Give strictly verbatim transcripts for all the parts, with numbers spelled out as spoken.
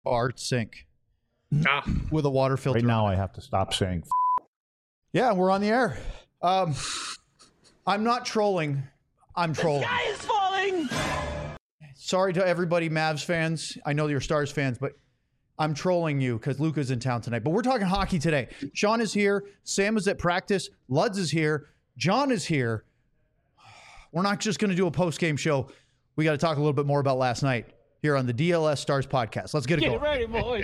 Art sink Ah. with a water filter. Right now I have to stop saying f- Yeah, we're on the air. Um, I'm not trolling. I'm trolling. The sky is falling! Sorry to everybody, Mavs fans. I know you're Stars fans, but I'm trolling you because Luka's in town tonight. But we're talking hockey today. Sean is here. Sam is at practice. Luds is here. John is here. We're not just going to do a post-game show. We got to talk a little bit more about last night here on the D L S Stars podcast. Let's get it Get going. it ready, boys.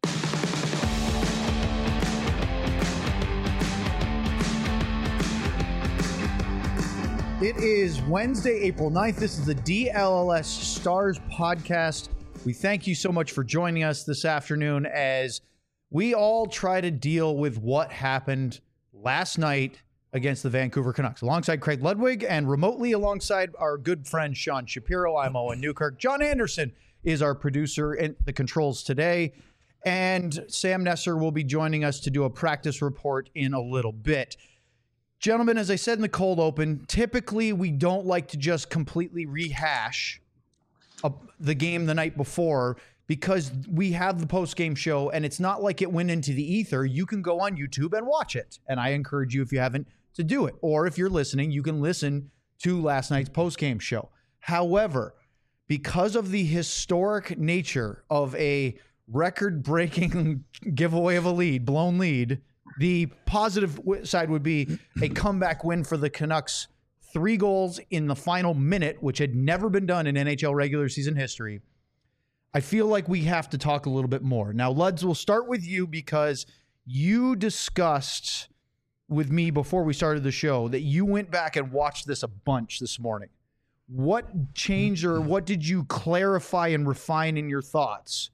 It is Wednesday, April ninth. This is the D L L S Stars podcast. We thank you so much for joining us this afternoon as we all try to deal with what happened last night against the Vancouver Canucks. Alongside Craig Ludwig and remotely alongside our good friend Sean Shapiro, I'm Owen Newkirk. John Anderson is our producer in the controls today. And Sam Nesser will be joining us to do a practice report in a little bit. Gentlemen, as I said in the cold open, typically we don't like to just completely rehash a, the game the night before because we have the post-game show and it's not like it went into the ether. You can go on YouTube and watch it. And I encourage you, if you haven't, to do it. Or if you're listening, you can listen to last night's post-game show. However, because of the historic nature of a record-breaking giveaway of a lead, blown lead, the positive side would be a comeback win for the Canucks. Three goals in the final minute, which had never been done in N H L regular season history. I feel like we have to talk a little bit more. Now, Luds, we'll start with you because you discussed with me before we started the show that you went back and watched this a bunch this morning. What changed or what did you clarify and refine in your thoughts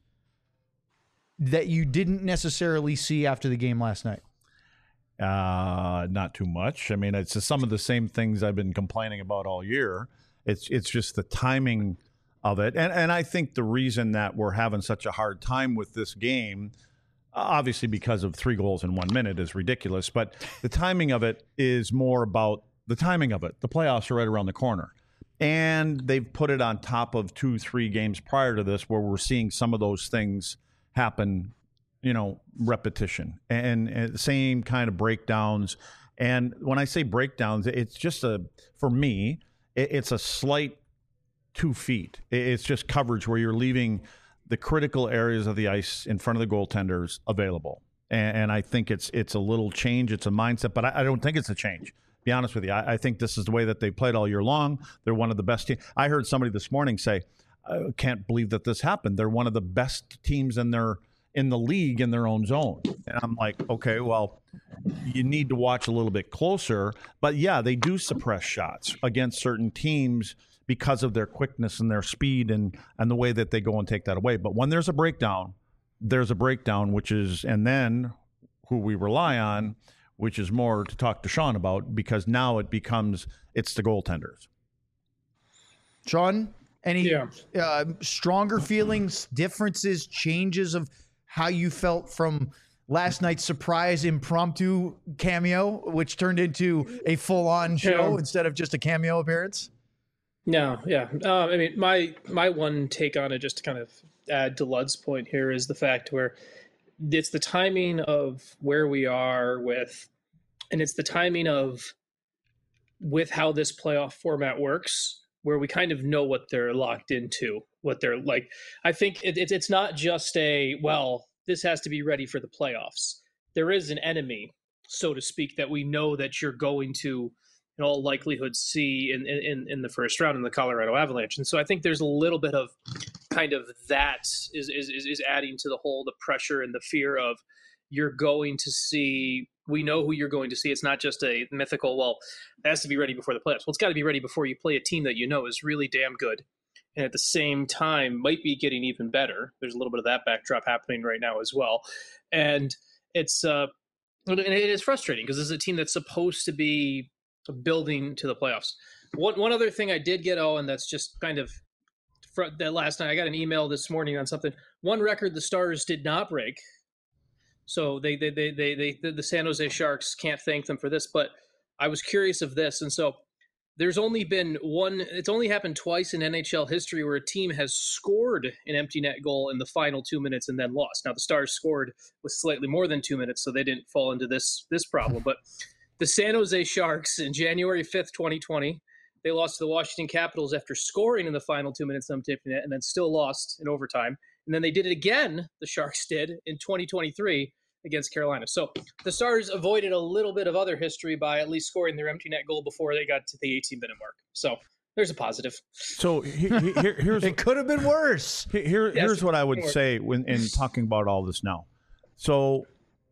that you didn't necessarily see after the game last night? Uh, not too much. I mean, it's just some of the same things I've been complaining about all year. It's it's just the timing of it. And and I think the reason that we're having such a hard time with this game, obviously because of three goals in one minute, is ridiculous. But the timing of it is more about the timing of it. The playoffs are right around the corner. And they've put it on top of two, three games prior to this where we're seeing some of those things happen, you know, repetition and, and the same kind of breakdowns. And when I say breakdowns, it's just a, for me, it, it's a slight two feet. It's just coverage where you're leaving the critical areas of the ice in front of the goaltenders available. And, and I think it's it's a little change. It's a mindset, but I, I don't think it's a change. Be honest with you. I, I think this is the way that they played all year long. They're one of the best teams. I heard somebody this morning say, I can't believe that this happened. They're one of the best teams in their in the league in their own zone. And I'm like, okay, well, you need to watch a little bit closer. But yeah, they do suppress shots against certain teams because of their quickness and their speed and, and the way that they go and take that away. But when there's a breakdown, there's a breakdown, which is, and then who we rely on, which is more to talk to Sean about, because now it becomes, it's the goaltenders. Sean, any Yeah. uh, stronger feelings, differences, changes of how you felt from last night's surprise impromptu cameo, which turned into a full-on show Yeah. instead of just a cameo appearance? No, yeah. Um, I mean, my my one take on it, just to kind of add to Lud's point here, is the fact where it's the timing of where we are with, and it's the timing of with how this playoff format works, where we kind of know what they're locked into, what they're like. I think it, it, it's not just a, well, this has to be ready for the playoffs. There is an enemy, so to speak, that we know that you're going to, in all likelihood, see in, in, in the first round in the Colorado Avalanche. And so I think there's a little bit of kind of that is, is, is adding to the whole, the pressure and the fear of you're going to see, we know who you're going to see. It's not just a mythical, well, it has to be ready before the playoffs. Well, it's got to be ready before you play a team that you know is really damn good. And at the same time, might be getting even better. There's a little bit of that backdrop happening right now as well. And it's, uh, and it is frustrating because this is a team that's supposed to be building to the playoffs. One, one other thing I did get, oh, and that's just kind of fr- that last night, I got an email this morning on something. One record the Stars did not break. So they, they, they, they, they, the San Jose Sharks can't thank them for this, but I was curious of this. And so there's only been one, it's only happened twice in N H L history where a team has scored an empty net goal in the final two minutes and then lost. Now, the Stars scored with slightly more than two minutes, so they didn't fall into this this problem. But the San Jose Sharks in January fifth, twenty twenty, they lost to the Washington Capitals after scoring in the final two minutes on empty net and then still lost in overtime. And then they did it again, the Sharks did, in twenty twenty-three against Carolina. So the Stars avoided a little bit of other history by at least scoring their empty net goal before they got to the eighteen-minute mark. So there's a positive. So he, he, here, here's it could have been worse. Here, Yes, here's what I would say when in talking about all this now. So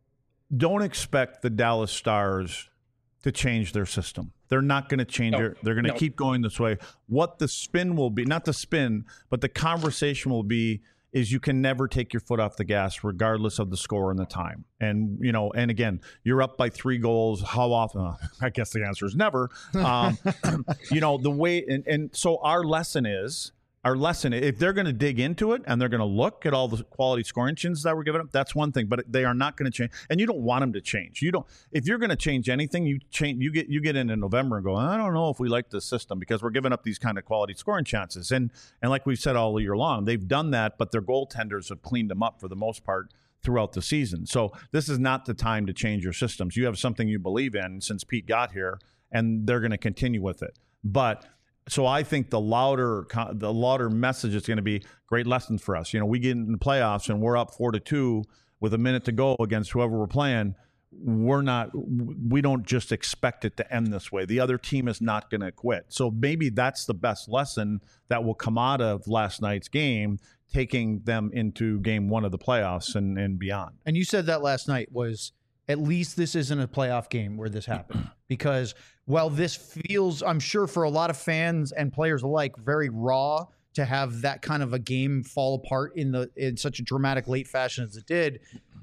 don't expect the Dallas Stars to change their system. They're not going to change No, it. They're going to no. keep going this way. What the spin will be, not the spin, but the conversation will be, is you can never take your foot off the gas regardless of the score and the time. And, you know, and again, you're up by three goals. How often? Uh, I guess the answer is never. Um, you know, the way, and, and so our lesson is, our lesson, if they're going to dig into it and they're going to look at all the quality scoring engines that were given up, that's one thing, but they are not going to change. And you don't want them to change. You don't, if you're going to change anything, you change, you get, you get into November and go, I don't know if we like this system because we're giving up these kind of quality scoring chances. And, and like we've said all year long, they've done that, but their goaltenders have cleaned them up for the most part throughout the season. So this is not the time to change your systems. You have something you believe in since Pete got here, and they're going to continue with it. But so I think the louder the louder message is going to be great lessons for us. You know, we get in the playoffs and we're up four to two with a minute to go against whoever we're playing. We're not. We don't just expect it to end this way. The other team is not going to quit. So maybe that's the best lesson that will come out of last night's game, taking them into game one of the playoffs and, and beyond. And you said that last night was, at least this isn't a playoff game where this happened. Because while this feels, I'm sure for a lot of fans and players alike, very raw to have that kind of a game fall apart in the in such a dramatic late fashion as it did,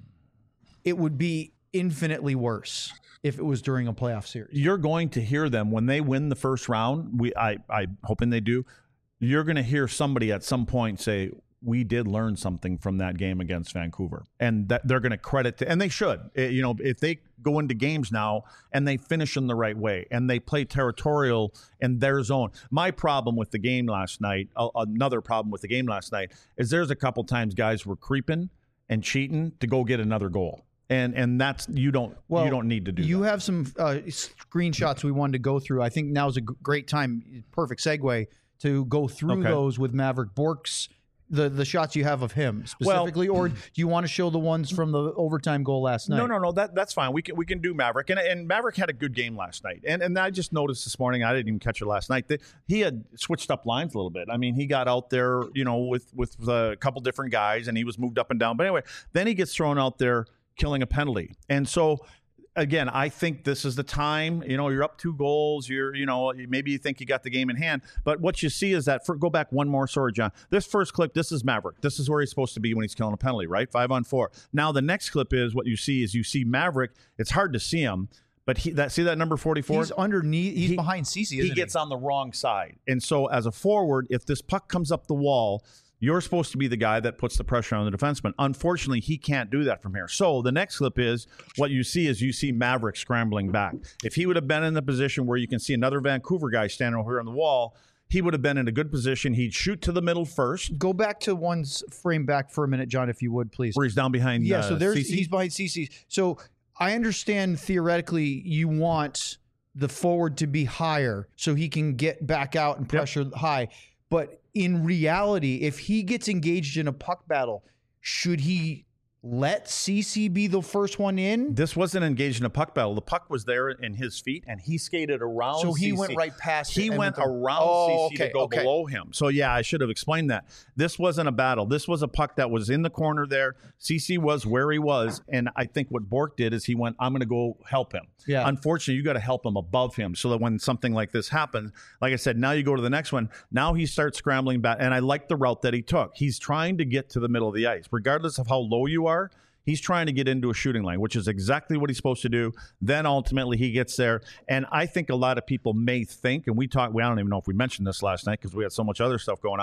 it would be infinitely worse if it was during a playoff series. You're going to hear them when they win the first round. We, I, I hoping they do. You're going to hear somebody at some point say, we did learn something from that game against Vancouver, and that they're going to credit to, and they should, you know, if they go into games now and they finish in the right way and they play territorial in their zone. My problem with the game last night, uh, another problem with the game last night is there's a couple times guys were creeping and cheating to go get another goal. And and that's, you don't, Well, you don't need to do You that. have some uh, screenshots we wanted to go through. I think now is a g- great time, perfect segue to go through Okay. those with Maverick Bourque's, the, the shots you have of him specifically, or do you want to show the ones from the overtime goal last night? No, no, no. That that's fine. We can we can do Maverick, and and Maverick had a good game last night. And and I just noticed this morning, I didn't even catch it last night, that he had switched up lines a little bit. I mean, he got out there, you know, with with a couple different guys, and he was moved up and down. But anyway, then he gets thrown out there killing a penalty, and so. Again, I think this is the time, you know, you're up two goals, you're, you know, maybe you think you got the game in hand, but what you see is that, for, go back one more, sorry, John, this first clip, this is Maverick. This is where he's supposed to be when he's killing a penalty, right? Five on four. Now, the next clip is what you see is you see Maverick. It's hard to see him, but he, that see that number forty-four? He's underneath, he's He- behind Cece, isn't He he? gets on the wrong side. And so as a forward, if this puck comes up the wall, you're supposed to be the guy that puts the pressure on the defenseman. Unfortunately, he can't do that from here. So the next clip is what you see is you see Maverick scrambling back. If he would have been in the position where you can see another Vancouver guy standing over here on the wall, he would have been in a good position. He'd shoot to the middle first, Go back to one's frame back for a minute, John, if you would, please. where he's down behind. Yeah, uh, so there's Cece. he's behind Cece. So I understand theoretically you want the forward to be higher so he can get back out and pressure high. But in reality, if he gets engaged in a puck battle, should he let Cece be the first one in? This wasn't engaged in a puck battle. The puck was there in his feet, and he skated around. So he Cece. went right past it He and went went the- around Oh, Cece okay, to go okay. below him. So yeah, I should have explained that. This wasn't a battle. This was a puck that was in the corner there. Cece was where he was, and I think what Bourque did is he went, I'm going to go help him. Yeah. Unfortunately, you got to help him above him so that when something like this happens, like I said, now you go to the next one. Now he starts scrambling back, and I like the route that he took. He's trying to get to the middle of the ice, regardless of how low you are. He's trying to get into a shooting lane, which is exactly what he's supposed to do. Then ultimately he gets there. And I think a lot of people may think, and we talked, we I don't even know if we mentioned this last night because we had so much other stuff going on.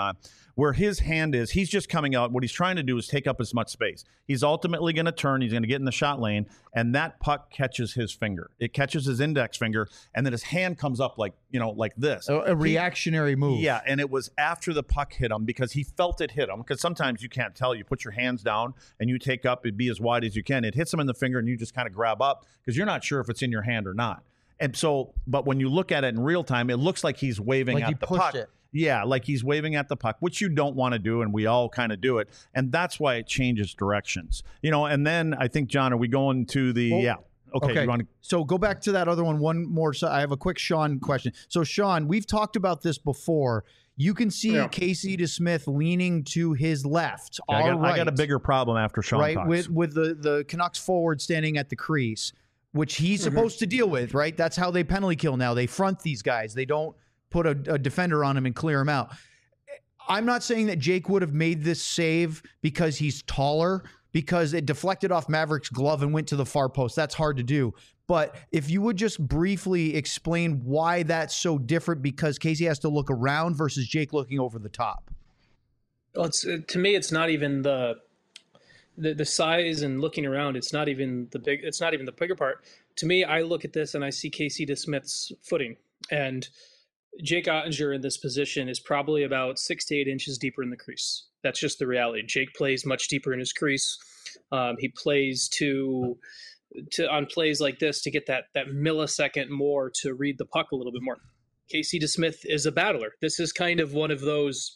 Where his hand is, he's just coming out. What he's trying to do is take up as much space. He's ultimately going to turn. He's going to get in the shot lane, and that puck catches his finger. It catches his index finger, and then his hand comes up like, you know, like this. A, a reactionary he, move. Yeah, and it was after the puck hit him because he felt it hit him. Because sometimes you can't tell. You put your hands down, and you take up, it'd be as wide as you can. It hits him in the finger, and you just kind of grab up because you're not sure if it's in your hand or not. And so, but when you look at it in real time, it looks like he's waving Like at he the pushed puck. it. Yeah, like he's waving at the puck, which you don't want to do, and we all kind of do it. And that's why it changes directions. You know, and then I think, John, are we going to the, Well, yeah. Okay. Okay. You want to, so go back to that other one. One more. So I have a quick Sean question. So Sean, we've talked about this before. You can see Yeah. Casey DeSmith leaning to his left. I, all got, right, I got a bigger problem after Sean right talks. with with the the Canucks forward standing at the crease, which he's Mm-hmm. supposed to deal with. Right. That's how they penalty kill now. They front these guys. They don't put a, a defender on him and clear him out. I'm not saying that Jake would have made this save because he's taller, because it deflected off Maverick's glove and went to the far post. That's hard to do. But if you would just briefly explain why that's so different, because Casey has to look around versus Jake looking over the top. Well, it's uh, to me, it's not even the, the the size and looking around. It's not even the big. It's not even the bigger part. To me, I look at this and I see Casey DeSmith's footing, and Jake Ottinger in this position is probably about six to eight inches deeper in the crease. That's just the reality. Jake plays much deeper in his crease. Um, he plays to to on plays like this to get that that millisecond more to read the puck a little bit more. Casey DeSmith is a battler. This is kind of one of those.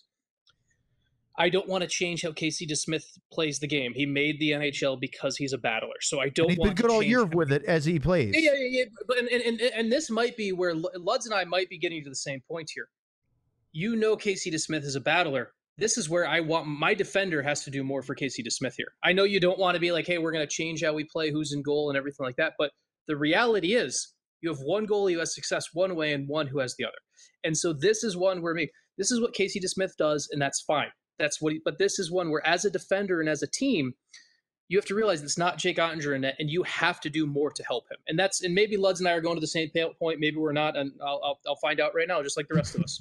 I don't want to change how Casey DeSmith plays the game. He made the N H L because he's a battler. So I don't And he's want been good to all change year how- with it as he plays. yeah, yeah, yeah. But and, and and this might be where Luds and I might be getting to the same point here. You know, Casey DeSmith is a battler. This is where I want my defender has to do more for Casey DeSmith here. I know you don't want to be like, hey, we're going to change how we play, who's in goal, and everything like that. But the reality is, you have one goalie who has success one way and one who has the other. And so this is one where me. This is what Casey DeSmith does, and that's fine. That's what. He, but this is one where, as a defender and as a team, you have to realize it's not Jake Ottinger in net, and you have to do more to help him. And that's and maybe Luds and I are going to the same point. Maybe we're not, and I'll I'll, I'll find out right now, just like the rest of us.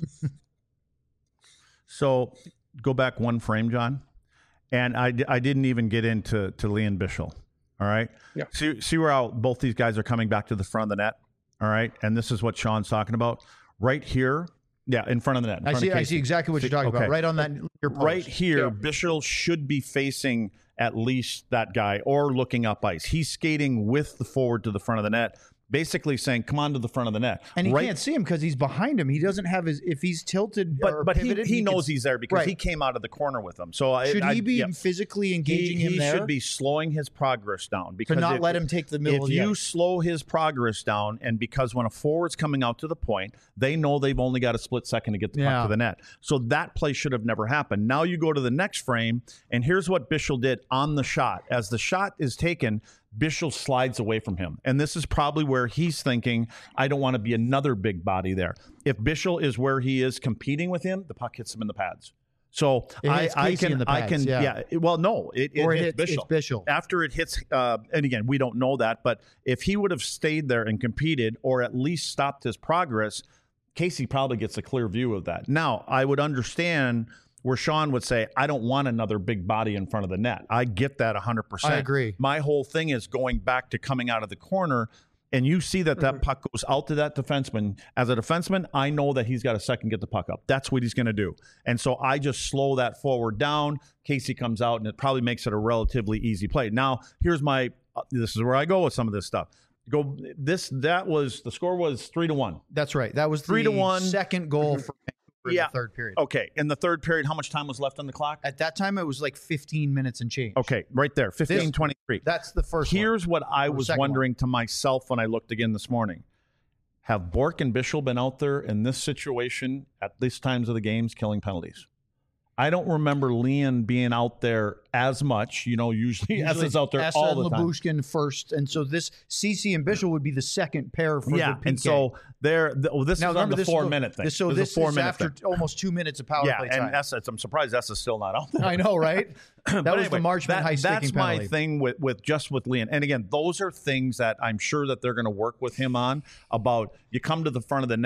So go back one frame, John, and I, I didn't even get into to Liam Bichsel. All right. Yeah. See, see where how both these guys are coming back to the front of the net. All right. And this is what Sean's talking about right here. Yeah, in front of the net. in I front see. of I Casey. see exactly what you're talking Okay. about. Right on that. Your post. Right here, Yeah. Bichsel should be facing at least that guy or looking up ice. He's skating with the forward to the front of the net, basically saying, come on to the front of the net. And he right, can't see him because he's behind him. He doesn't have his. If he's tilted, But or but he, pivoted, he can- knows he's there because Right. he came out of the corner with him. So I, Should I, he be yeah. physically engaging he, him he there? should be slowing his progress down because to not if, let him take the middle if of the you ice. slow his progress down, and because when a forward's coming out to the point, they know they've only got a split second to get the Yeah. puck to the net. So that play should have never happened. Now you go to the next frame, and here's what Bichsel did on the shot. As the shot is taken, Bichsel slides away from him. And this is probably where he's thinking, I don't want to be another big body there. If Bichsel is where he is competing with him, the puck hits him in the pads. So It I, hits I Casey can, in the I pads, can, yeah. yeah. it- Well, no, it, it Or it hits hits- it's Bichsel. Bichsel. After it hits, uh, and again, we don't know that, but if he would have stayed there and competed, or at least stopped his progress, Casey probably gets a clear view of that. Now, I would understand where Sean would say, I don't want another big body in front of the net. I get that one hundred percent. I agree. My whole thing is going back to coming out of the corner, and you see that that puck goes out to that defenseman. As a defenseman, I know that he's got a second get the puck up. That's what he's going to do. And so I just slow that forward down. Casey comes out, and it probably makes it a relatively easy play. Now, here's my uh, this is where I go with some of this stuff. Go this that was the score was three to one. That's right. That was Three the to one. second goal for Vancouver in Yeah. the third period. Okay, in the third period, how much time was left on the clock? At that time, it was like fifteen minutes and change. Okay, right there, fifteen twenty-three. That's the first one. Here's what I Or was second one. wondering to myself when I looked again this morning. Have Bork and Bichsel been out there in this situation at these times of the games killing penalties? I don't remember Leon being out there as much. You know, usually, S is out there Essa all and the time. Labushkin first, and so this C C and Bichsel would be the second pair for Yeah, the P K. and so there. The, oh, this now is on remember the this four is, minute thing. This, so this, this is a four is minute after thing. almost two minutes of power Yeah, play and time. Essa, I'm surprised Essa's still not out there. I know, right? That But was the anyway, Marchman that- high sticking That's penalty. my thing with, with just with Leon. And again, those are things that I'm sure that they're going to work with him on about you come to the front of the net.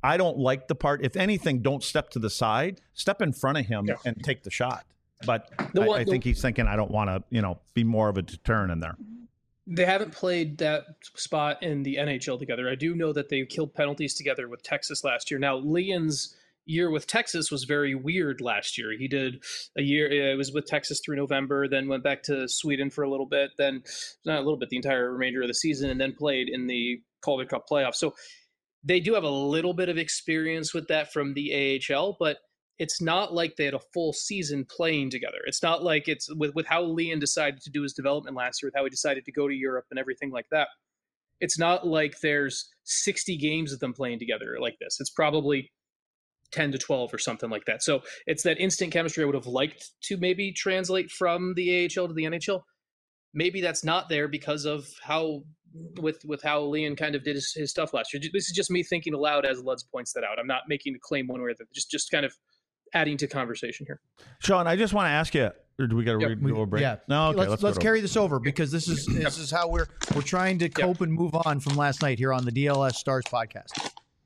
I don't like the part. If anything, don't step to the side. Step in front of him yeah. and take the shot. But the one, I, I think the, he's thinking, I don't want to, you know, be more of a deterrent in there. They haven't played that spot in the N H L together. I do know that they killed penalties together with Texas last year. Now, Leon's year with Texas was very weird last year. He did a year, it was with Texas through November, then went back to Sweden for a little bit, then not a little bit, the entire remainder of the season, and then played in the Calder Cup playoffs. So they do have a little bit of experience with that from the A H L, but it's not like they had a full season playing together. It's not like it's with, with how Leon decided to do his development last year, with how he decided to go to Europe and everything like that. It's not like there's sixty games of them playing together like this. It's probably ten to twelve or something like that. So it's that instant chemistry I would have liked to maybe translate from the A H L to the N H L. Maybe that's not there because of how with with how Leon kind of did his, his stuff last year. This is just me thinking aloud as Luds points that out. I'm not making a claim one way or the other. Just just kind of adding to conversation here. Sean, I just want to ask you, or do we got to yep, go a break? Yeah. No, okay, let's let's, let's carry this over because this is this is how we're we're trying to cope yep. and move on from last night here on the D L S Stars podcast.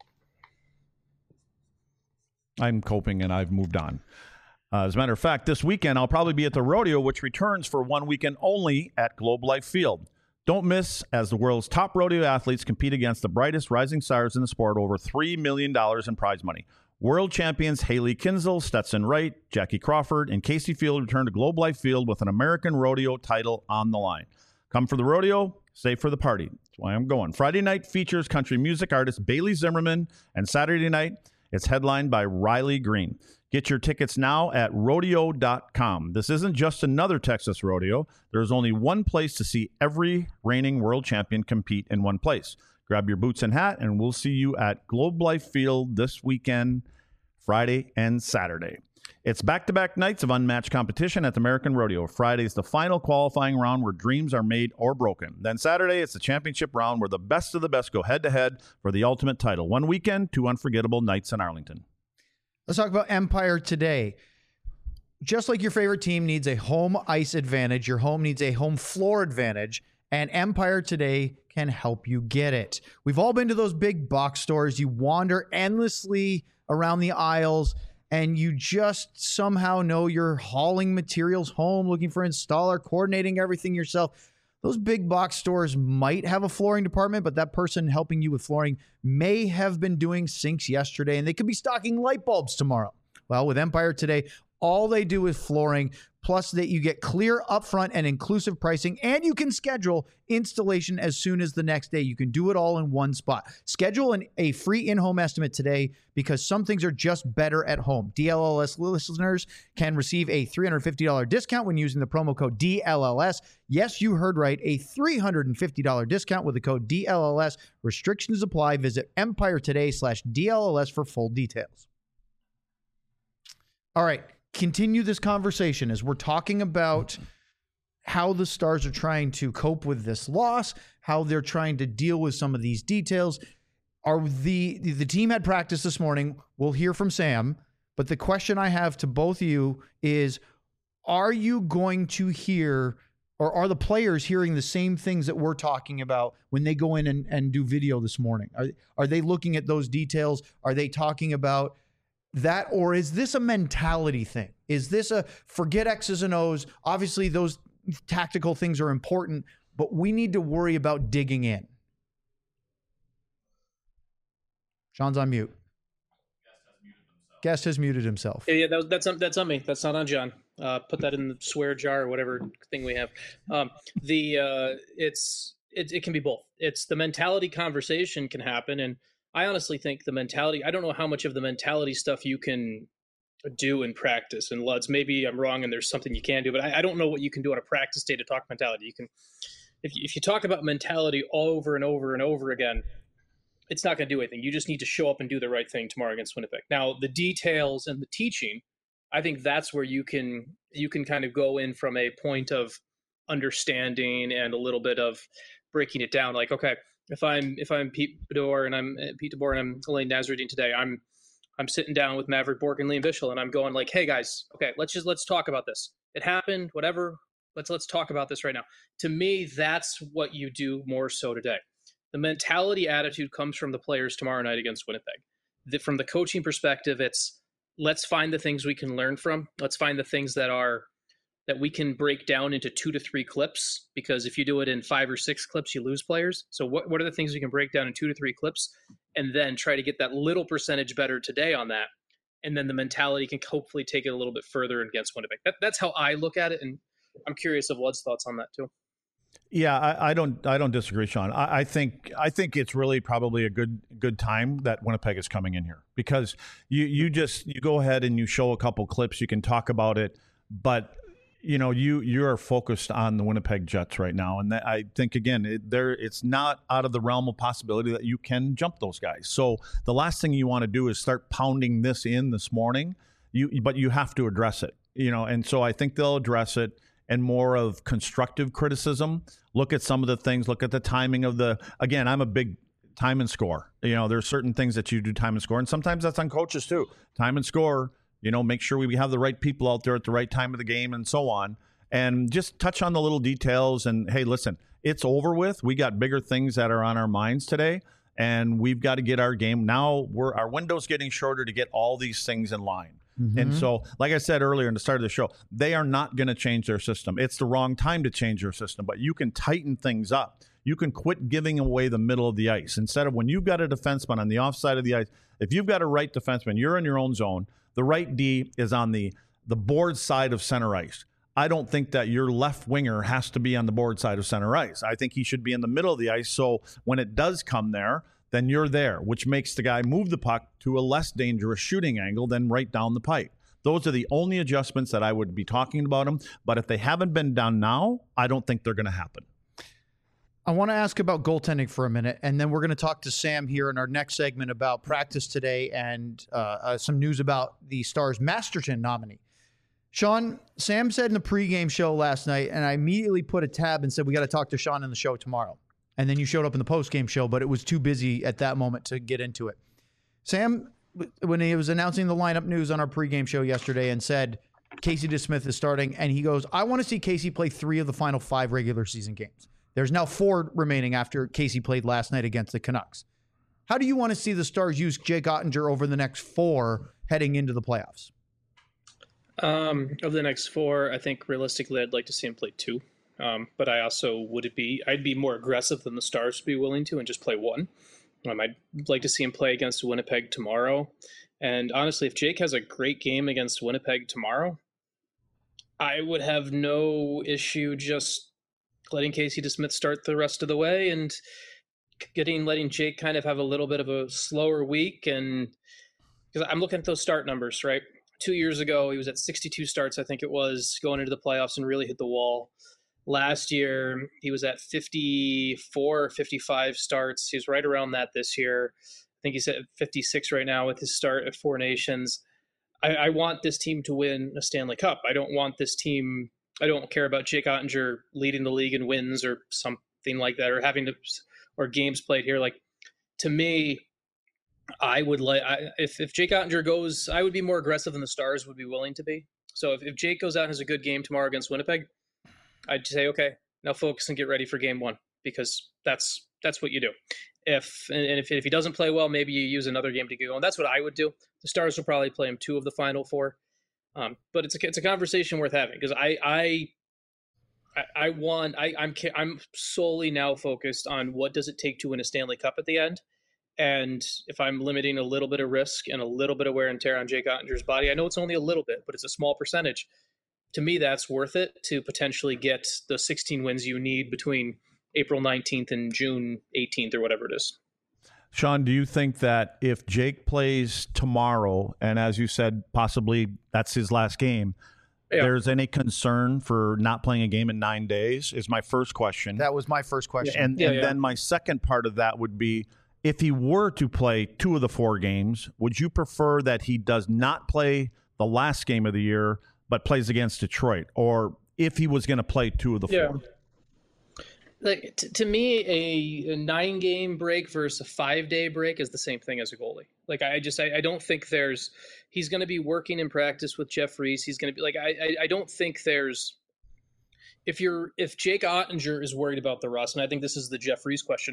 I'm coping and I've moved on. Uh, as a matter of fact, this weekend I'll probably be at the rodeo, which returns for one weekend only at Globe Life Field. Don't miss as the world's top rodeo athletes compete against the brightest rising stars in the sport, over three million dollars in prize money. World champions Haley Kinsel, Stetson Wright, Jackie Crawford, and Casey Field return to Globe Life Field with an American rodeo title on the line. Come for the rodeo, stay for the party. That's why I'm going. Friday night features country music artist Bailey Zimmerman, and Saturday night it's headlined by Riley Green. Get your tickets now at rodeo dot com. This isn't just another Texas rodeo. There's only one place to see every reigning world champion compete in one place. Grab your boots and hat, and we'll see you at Globe Life Field this weekend, Friday and Saturday. It's back-to-back nights of unmatched competition at the American Rodeo. Friday's the final qualifying round where dreams are made or broken. Then Saturday, it's the championship round where the best of the best go head-to-head for the ultimate title. One weekend, two unforgettable nights in Arlington. Let's talk about Empire today. Just like your favorite team needs a home ice advantage, your home needs a home floor advantage, and Empire today can help you get it. We've all been to those big box stores. You wander endlessly around the aisles, and you just somehow know you're hauling materials home, looking for an installer, coordinating everything yourself. Those big box stores might have a flooring department, but that person helping you with flooring may have been doing sinks yesterday, and they could be stocking light bulbs tomorrow. Well, with Empire today, all they do is flooring, plus that you get clear upfront and inclusive pricing, and you can schedule installation as soon as the next day. You can do it all in one spot. Schedule an, a free in-home estimate today because some things are just better at home. D L L S listeners can receive a three hundred fifty dollars discount when using the promo code D L L S. Yes, you heard right, a three hundred fifty dollars discount with the code D L L S. Restrictions apply. Visit Empire today slash D L L S for full details. All right. Continue this conversation as we're talking about how the Stars are trying to cope with this loss, how they're trying to deal with some of these details. Are the the team had practice this morning? We'll hear from Sam, but the question I have to both of you is, are you going to hear, or are the players hearing the same things that we're talking about when they go in and, and do video this morning? Are, are they looking at those details? Are they talking about that, or is this a mentality thing? Is this a forget X's and O's? Obviously, those tactical things are important, but we need to worry about digging in. Sean's on mute. Guest has muted himself. Yeah, yeah, that was, that's on, that's on me. That's not on John. Uh, put that in the swear jar or whatever thing we have. Um, the uh, it's it, it can be both. It's the mentality conversation can happen, and I honestly think the mentality, I don't know how much of the mentality stuff you can do in practice. And Luds, maybe I'm wrong and there's something you can do, but I, I don't know what you can do on a practice day to talk mentality. You can, if you, if you talk about mentality over and over and over again, it's not going to do anything. You just need to show up and do the right thing tomorrow against Winnipeg. Now, the details and the teaching, I think that's where you can, you can kind of go in from a point of understanding and a little bit of breaking it down. Like, okay, If I'm if I'm Pete Bedore and I'm uh, Pete DeBoer and I'm Elaine Nasruddin today, I'm I'm sitting down with Maverick Bourque and Liam Bichel, and I'm going like, hey guys, okay, let's just let's talk about this. It happened, whatever. Let's let's talk about this right now. To me, that's what you do more so today. The mentality attitude comes from the players tomorrow night against Winnipeg. the, from the coaching perspective, it's let's find the things we can learn from. Let's find the things that are that we can break down into two to three clips, because if you do it in five or six clips, you lose players. So what, what are the things you can break down in two to three clips, and then try to get that little percentage better today on that. And then the mentality can hopefully take it a little bit further against Winnipeg. That, that's how I look at it. And I'm curious of Wlad's thoughts on that too. Yeah, I, I don't I don't disagree, Sean. I, I think I think it's really probably a good good time that Winnipeg is coming in here, because you, you just you go ahead and you show a couple clips, you can talk about it, but you know, you you are focused on the Winnipeg Jets right now, and that, I think again, it, there it's not out of the realm of possibility that you can jump those guys. So the last thing you want to do is start pounding this in this morning. You but you have to address it, you know, and so I think they'll address it, and more of constructive criticism. Look at some of the things. Look at the timing of the. Again, I'm a big time and score. You know, there's certain things that you do time and score, and sometimes that's on coaches too. Time and score. You know, make sure we have the right people out there at the right time of the game and so on. And just touch on the little details. And, hey, listen, it's over with. We got bigger things that are on our minds today, and we've got to get our game. Now we're our window's getting shorter to get all these things in line. Mm-hmm. And so, like I said earlier in the start of the show, they are not going to change their system. It's the wrong time to change their system, but you can tighten things up. You can quit giving away the middle of the ice. Instead of when you've got a defenseman on the offside of the ice, if you've got a right defenseman, you're in your own zone. The right D is on the, the board side of center ice. I don't think that your left winger has to be on the board side of center ice. I think he should be in the middle of the ice, so when it does come there, then you're there, which makes the guy move the puck to a less dangerous shooting angle than right down the pipe. Those are the only adjustments that I would be talking about them, but if they haven't been done now, I don't think they're going to happen. I want to ask about goaltending for a minute, and then we're going to talk to Sam here in our next segment about practice today and uh, uh, some news about the Stars Masterton nominee. Sean, Sam said in the pregame show last night, and I immediately put a tab and said, we got to talk to Sean in the show tomorrow. And then you showed up in the postgame show, but it was too busy at that moment to get into it. Sam, when he was announcing the lineup news on our pregame show yesterday and said Casey DeSmith is starting, and he goes, I want to see Casey play three of the final five regular season games. There's now four remaining after Casey played last night against the Canucks. How do you want to see the Stars use Jake Oettinger over the next four heading into the playoffs? Um, over the next four, I think realistically I'd like to see him play two. Um, but I also would it be I'd be more aggressive than the Stars would be willing to and just play one. Um, I'd like to see him play against Winnipeg tomorrow. And honestly, if Jake has a great game against Winnipeg tomorrow, I would have no issue just letting Casey DeSmith start the rest of the way and getting letting Jake kind of have a little bit of a slower week. And because I'm looking at those start numbers, right? Two years ago, he was at sixty-two starts, I think it was, going into the playoffs and really hit the wall. Last year, he was at fifty-four, fifty-five starts. He's right around that this year. I think he's at fifty-six right now with his start at Four Nations. I, I want this team to win a Stanley Cup. I don't want this team – I don't care about Jake Oettinger leading the league in wins or something like that, or having to – or games played here. Like, to me – I would like if if Jake Oettinger goes, I would be more aggressive than the Stars would be willing to be. So if, if Jake goes out and has a good game tomorrow against Winnipeg, I'd say, okay, now focus and get ready for game one, because that's that's what you do. If and if if he doesn't play well, maybe you use another game to get going. That's what I would do. The Stars will probably play him two of the final four, um, but it's a it's a conversation worth having, because I I I, I want I I'm I'm solely now focused on what does it take to win a Stanley Cup at the end. And if I'm limiting a little bit of risk and a little bit of wear and tear on Jake Oettinger's body, I know it's only a little bit, but it's a small percentage. To me, that's worth it to potentially get the sixteen wins you need between April nineteenth and June eighteenth or whatever it is. Sean, do you think that if Jake plays tomorrow, and as you said, possibly that's his last game, yeah, there's any concern for not playing a game in nine days is my first question. That was my first question. And, yeah, and yeah. then my second part of that would be, if he were to play two of the four games, would you prefer that he does not play the last game of the year but plays against Detroit? Or if he was going to play two of the yeah. four? Like t- to me, a, a nine-game break versus a five-day break is the same thing as a goalie. Like I just I, I don't think there's – he's going to be working in practice with Jeff Reese. He's going to be – like I, I I don't think there's – if you're if Jake Oettinger is worried about the rust, and I think this is the Jeff Reese question –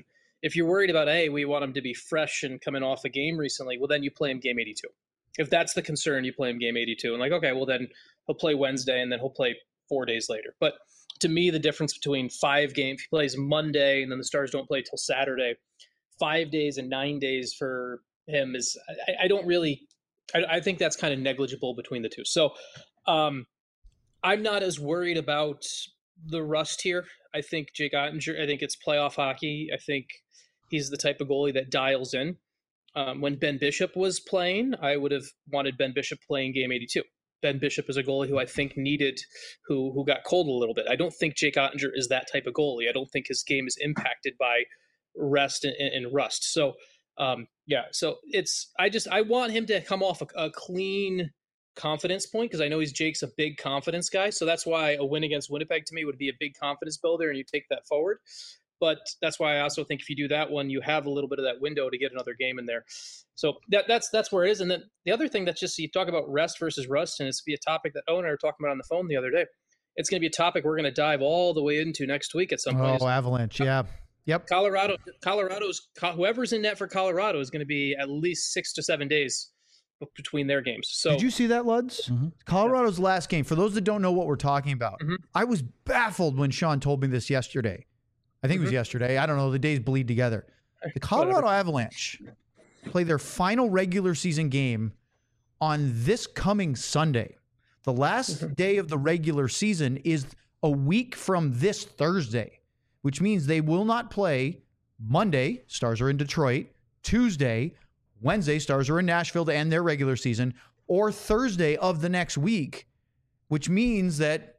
If you're worried about, hey, we want him to be fresh and coming off a game recently, well, then you play him game eighty-two. If that's the concern, you play him game eighty-two. And like, okay, well, then he'll play Wednesday and then he'll play four days later. But to me, the difference between five games, if he plays Monday and then the Stars don't play till Saturday, five days and nine days for him is, I, I don't really, I, I think that's kind of negligible between the two. So um, I'm not as worried about the rust here. I think Jake Oettinger, I think it's playoff hockey. I think he's the type of goalie that dials in. Um, when Ben Bishop was playing, I would have wanted Ben Bishop playing game eighty-two. Ben Bishop is a goalie who I think needed, who who got cold a little bit. I don't think Jake Oettinger is that type of goalie. I don't think his game is impacted by rest and, and rust. So, um, yeah, so it's, I just, I want him to come off a, a clean confidence point because I know he's Jake's a big confidence guy. So that's why a win against Winnipeg to me would be a big confidence builder and you take that forward. But that's why I also think if you do that one, you have a little bit of that window to get another game in there. So that that's that's where it is. And then the other thing that's just, you talk about rest versus rust, and it's be a topic that Owen and I were talking about on the phone the other day. It's going to be a topic we're going to dive all the way into next week at some point. Oh, Avalanche, yeah. Yep. Colorado, Colorado's, whoever's in net for Colorado is going to be at least six to seven days between their games. So did you see that, Luds? Mm-hmm. Colorado's last game, for those that don't know what we're talking about, mm-hmm. I was baffled when Sean told me this yesterday. I think mm-hmm. it was yesterday. I don't know. The days bleed together. The Colorado Whatever. Avalanche play their final regular season game on this coming Sunday. The last mm-hmm. day of the regular season is a week from this Thursday, which means they will not play Monday. Stars are in Detroit. Tuesday, Wednesday, Stars are in Nashville to end their regular season, or Thursday of the next week, which means that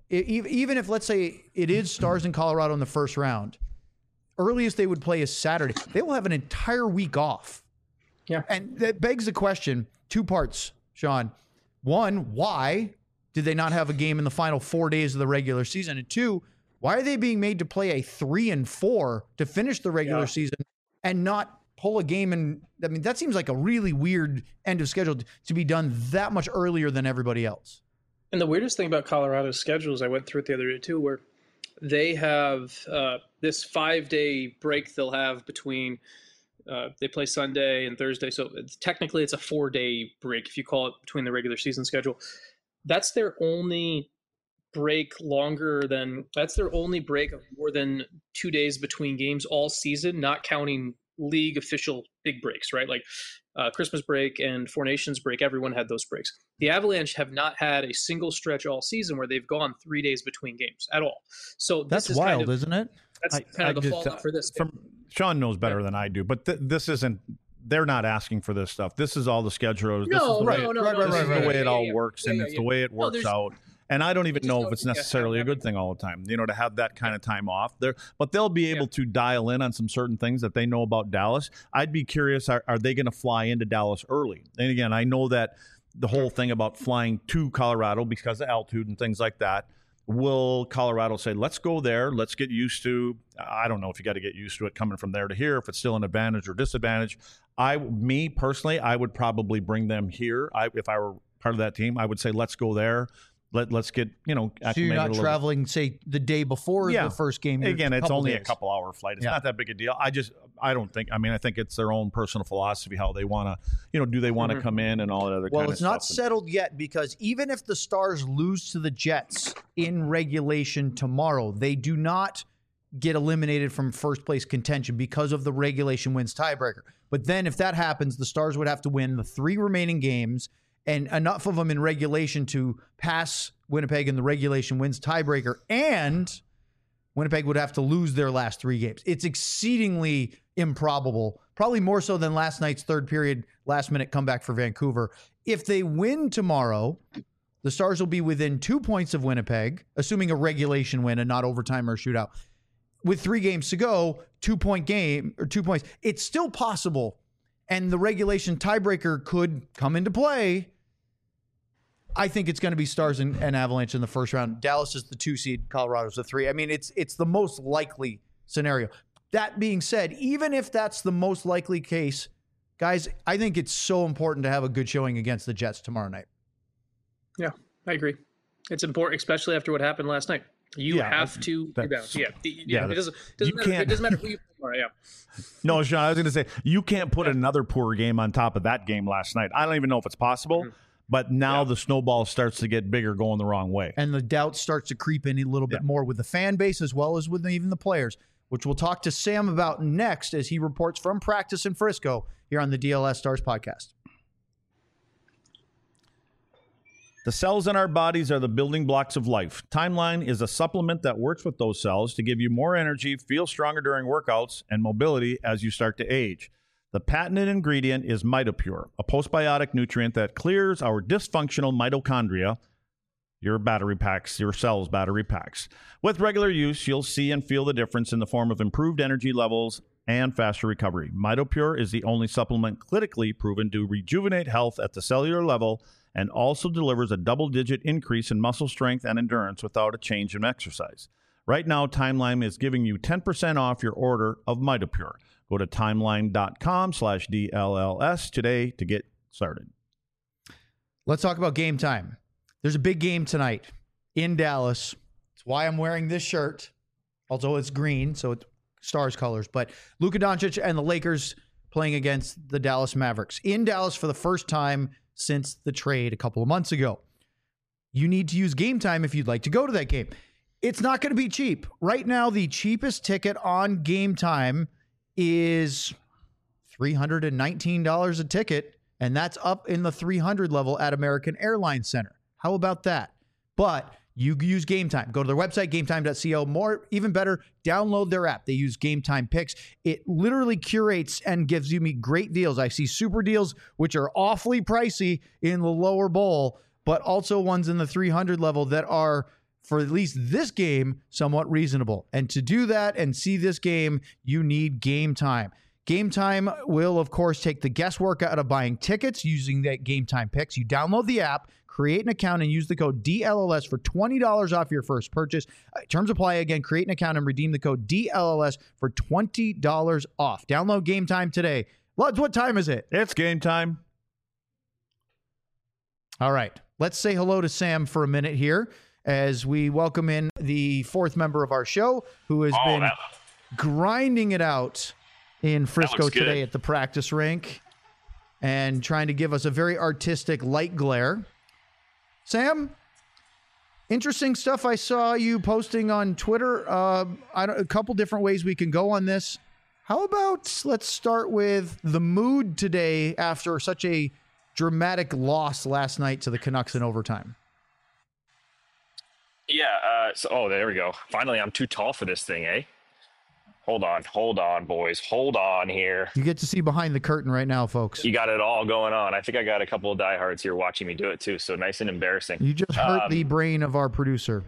even if, let's say, it is Stars in Colorado in the first round, earliest they would play is Saturday. They will have an entire week off. Yeah. And that begs the question, two parts, Sean. One, why did they not have a game in the final four days of the regular season? And two, why are they being made to play a three and four to finish the regular yeah. season and not pull a game? And I mean, that seems like a really weird end of schedule to be done that much earlier than everybody else. And the weirdest thing about Colorado's schedule is I went through it the other day too, where they have uh, this five-day break they'll have between uh, they play Sunday and Thursday. So it's, technically it's a four-day break if you call it between the regular season schedule. That's their only break longer than that's their only break of more than two days between games all season, not counting league official big breaks, right? Like uh, Christmas break and Four Nations break, everyone had those breaks. The Avalanche have not had a single stretch all season where they've gone three days between games at all. So this that's is wild, kind of, isn't it? That's I, kind I of the just, fallout uh, for this. From, Sean knows better yeah. than I do, but th- this isn't. They're not asking for this stuff. This is all the schedule. This no, is the right, way, no, no, right, no, right, right, right, right, the way yeah, it all yeah, works, yeah, and yeah, it's yeah. the way it No, works out. And I don't even know if it's necessarily a good thing all the time, you know, to have that kind of time off there. But they'll be able yeah. to dial in on some certain things that they know about Dallas. I'd be curious, are, are they going to fly into Dallas early? And again, I know that the whole thing about flying to Colorado because of altitude and things like that, will Colorado say, let's go there, let's get used to, I don't know if you got to get used to it coming from there to here, if it's still an advantage or disadvantage. I, me personally, I would probably bring them here. I, if I were part of that team, I would say, let's go there. Let, let's get, you know, so you're not traveling, say, the day before yeah. the first game. Again, it's only days. a couple hour flight. It's yeah. not that big a deal. I just, I don't think, I mean, I think it's their own personal philosophy, how they want to, you know, do they want to mm-hmm. come in and all that other well, kind of stuff. Well, it's not settled yet because even if the Stars lose to the Jets in regulation tomorrow, they do not get eliminated from first place contention because of the regulation wins tiebreaker. But then if that happens, the Stars would have to win the three remaining games and enough of them in regulation to pass Winnipeg in the regulation wins tiebreaker, and Winnipeg would have to lose their last three games. It's exceedingly improbable, probably more so than last night's third period last minute comeback for Vancouver. If they win tomorrow, the Stars will be within two points of Winnipeg, assuming a regulation win and not overtime or shootout. With three games to go, two-point game or two points, it's still possible, and the regulation tiebreaker could come into play. I think it's going to be Stars and, and Avalanche in the first round. Dallas is the two seed, Colorado's the three. I mean, it's it's the most likely scenario. That being said, even if that's the most likely case, guys, I think it's so important to have a good showing against the Jets tomorrow night. Yeah, I agree. It's important, especially after what happened last night. You Yeah, have to rebound. that's- Yeah, yeah. yeah, it doesn't doesn't you matter. It can't- doesn't matter who you play. Yeah. No, Sean, I was going to say, you can't put another poor game on top of that game last night. I don't even know if it's possible, Mhm. but now Yeah. the snowball starts to get bigger going the wrong way. And the doubt starts to creep in a little bit Yeah. more with the fan base as well as with even the players, which we'll talk to Sam about next as he reports from practice in Frisco here on the D L S Stars podcast. The cells in our bodies are the building blocks of life. Timeline is a supplement that works with those cells to give you more energy, feel stronger during workouts, and mobility as you start to age. The patented ingredient is MitoPure, a postbiotic nutrient that clears our dysfunctional mitochondria, your battery packs, your cells' battery packs. With regular use, you'll see and feel the difference in the form of improved energy levels and faster recovery. MitoPure is the only supplement clinically proven to rejuvenate health at the cellular level and also delivers a double-digit increase in muscle strength and endurance without a change in exercise. Right now, Timeline is giving you ten percent off your order of MitoPure. Go to timeline.com slash DLLS today to get started. Let's talk about game time. There's a big game tonight in Dallas. It's why I'm wearing this shirt, although it's green, so it's Stars colors. But Luka Doncic and the Lakers playing against the Dallas Mavericks in Dallas for the first time since the trade a couple of months ago. You need to use Game Time if you'd like to go to that game. It's not going to be cheap. Right now, the cheapest ticket on Game Time is three hundred nineteen dollars a ticket, and that's up in the three hundred level at American Airlines Center. How about that? But you use Game Time. Go to their website, game time dot co. More, even better, download their app. They use Game Time Picks. It literally curates and gives you me great deals. I see super deals, which are awfully pricey in the lower bowl, but also ones in the three hundred level that are, for at least this game, somewhat reasonable. And to do that and see this game, you need Game Time. Game Time will, of course, take the guesswork out of buying tickets using that Game Time Picks. You download the app, create an account, and use the code D L L S for twenty dollars off your first purchase. Uh, terms apply. Again, create an account and redeem the code D L L S for twenty dollars off. Download Game Time today. Luds, what time is it? It's game time. All right. Let's say hello to Sam for a minute here as we welcome in the fourth member of our show who has Oh, been that- grinding it out in Frisco looks good. today at the practice rink and trying to give us a very artistic light glare. Sam, interesting stuff I saw you posting on Twitter. Uh, I don't, a couple different ways we can go on this. How about let's start with the mood today after such a dramatic loss last night to the Canucks in overtime? Yeah. Uh, so, oh, there we go. Finally, I'm too tall for this thing, eh? Hold on, hold on, boys. Hold on here. You get to see behind the curtain right now, folks. You got it all going on. I think I got a couple of diehards here watching me do it too. So nice and embarrassing. You just hurt Um, the brain of our producer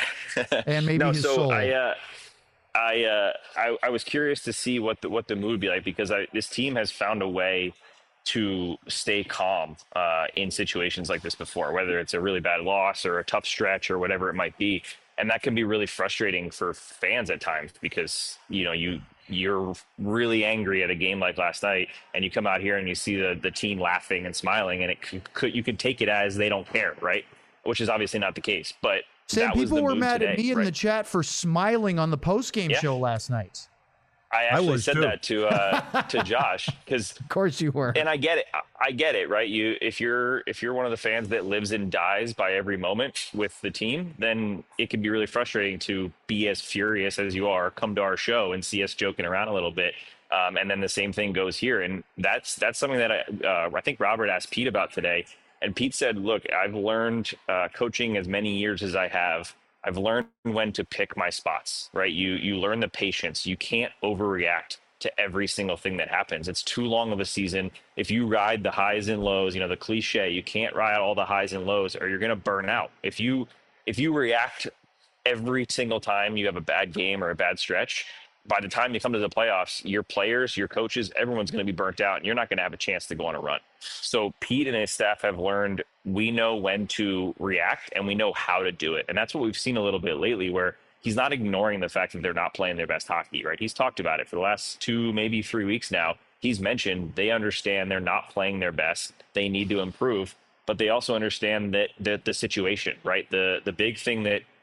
and maybe no, his so soul. I, uh, I, uh, I, I was curious to see what the what the mood would be like because I, this team has found a way to stay calm uh, in situations like this before, whether it's a really bad loss or a tough stretch or whatever it might be. And that can be really frustrating for fans at times because, you know, you, you're really angry at a game like last night and you come out here and you see the, the team laughing and smiling and it could, could, you could take it as they don't care, right? Which is obviously not the case, but Sam, that was people the were mood mad today, at me in right? the chat for smiling on the post-game Yeah. show last night. I actually was said too. that to uh, to Josh because, Of course you were. and I get it. I- I get it, right? You if you're if you're one of the fans that lives and dies by every moment with the team, then it can be really frustrating to be as furious as you are, come to our show and see us joking around a little bit. Um, and then the same thing goes here, and that's that's something that I uh, I think Robert asked Pete about today, and Pete said, "Look, I've learned uh, coaching as many years as I have. I've learned when to pick my spots, right? You you learn the patience. You can't overreact to every single thing that happens. It's too long of a season. If you ride the highs and lows, you know, the cliche, you can't ride all the highs and lows or you're going to burn out. If you if you react every single time you have a bad game or a bad stretch, by the time you come to the playoffs, your players, your coaches, everyone's going to be burnt out and you're not going to have a chance to go on a run. So Pete and his staff have learned we know when to react and we know how to do it. And that's what we've seen a little bit lately where he's not ignoring the fact that they're not playing their best hockey, right? He's talked about it for the last two, maybe three weeks now. He's mentioned they understand they're not playing their best. They need to improve, but they also understand that the, the situation, right? The the big thing that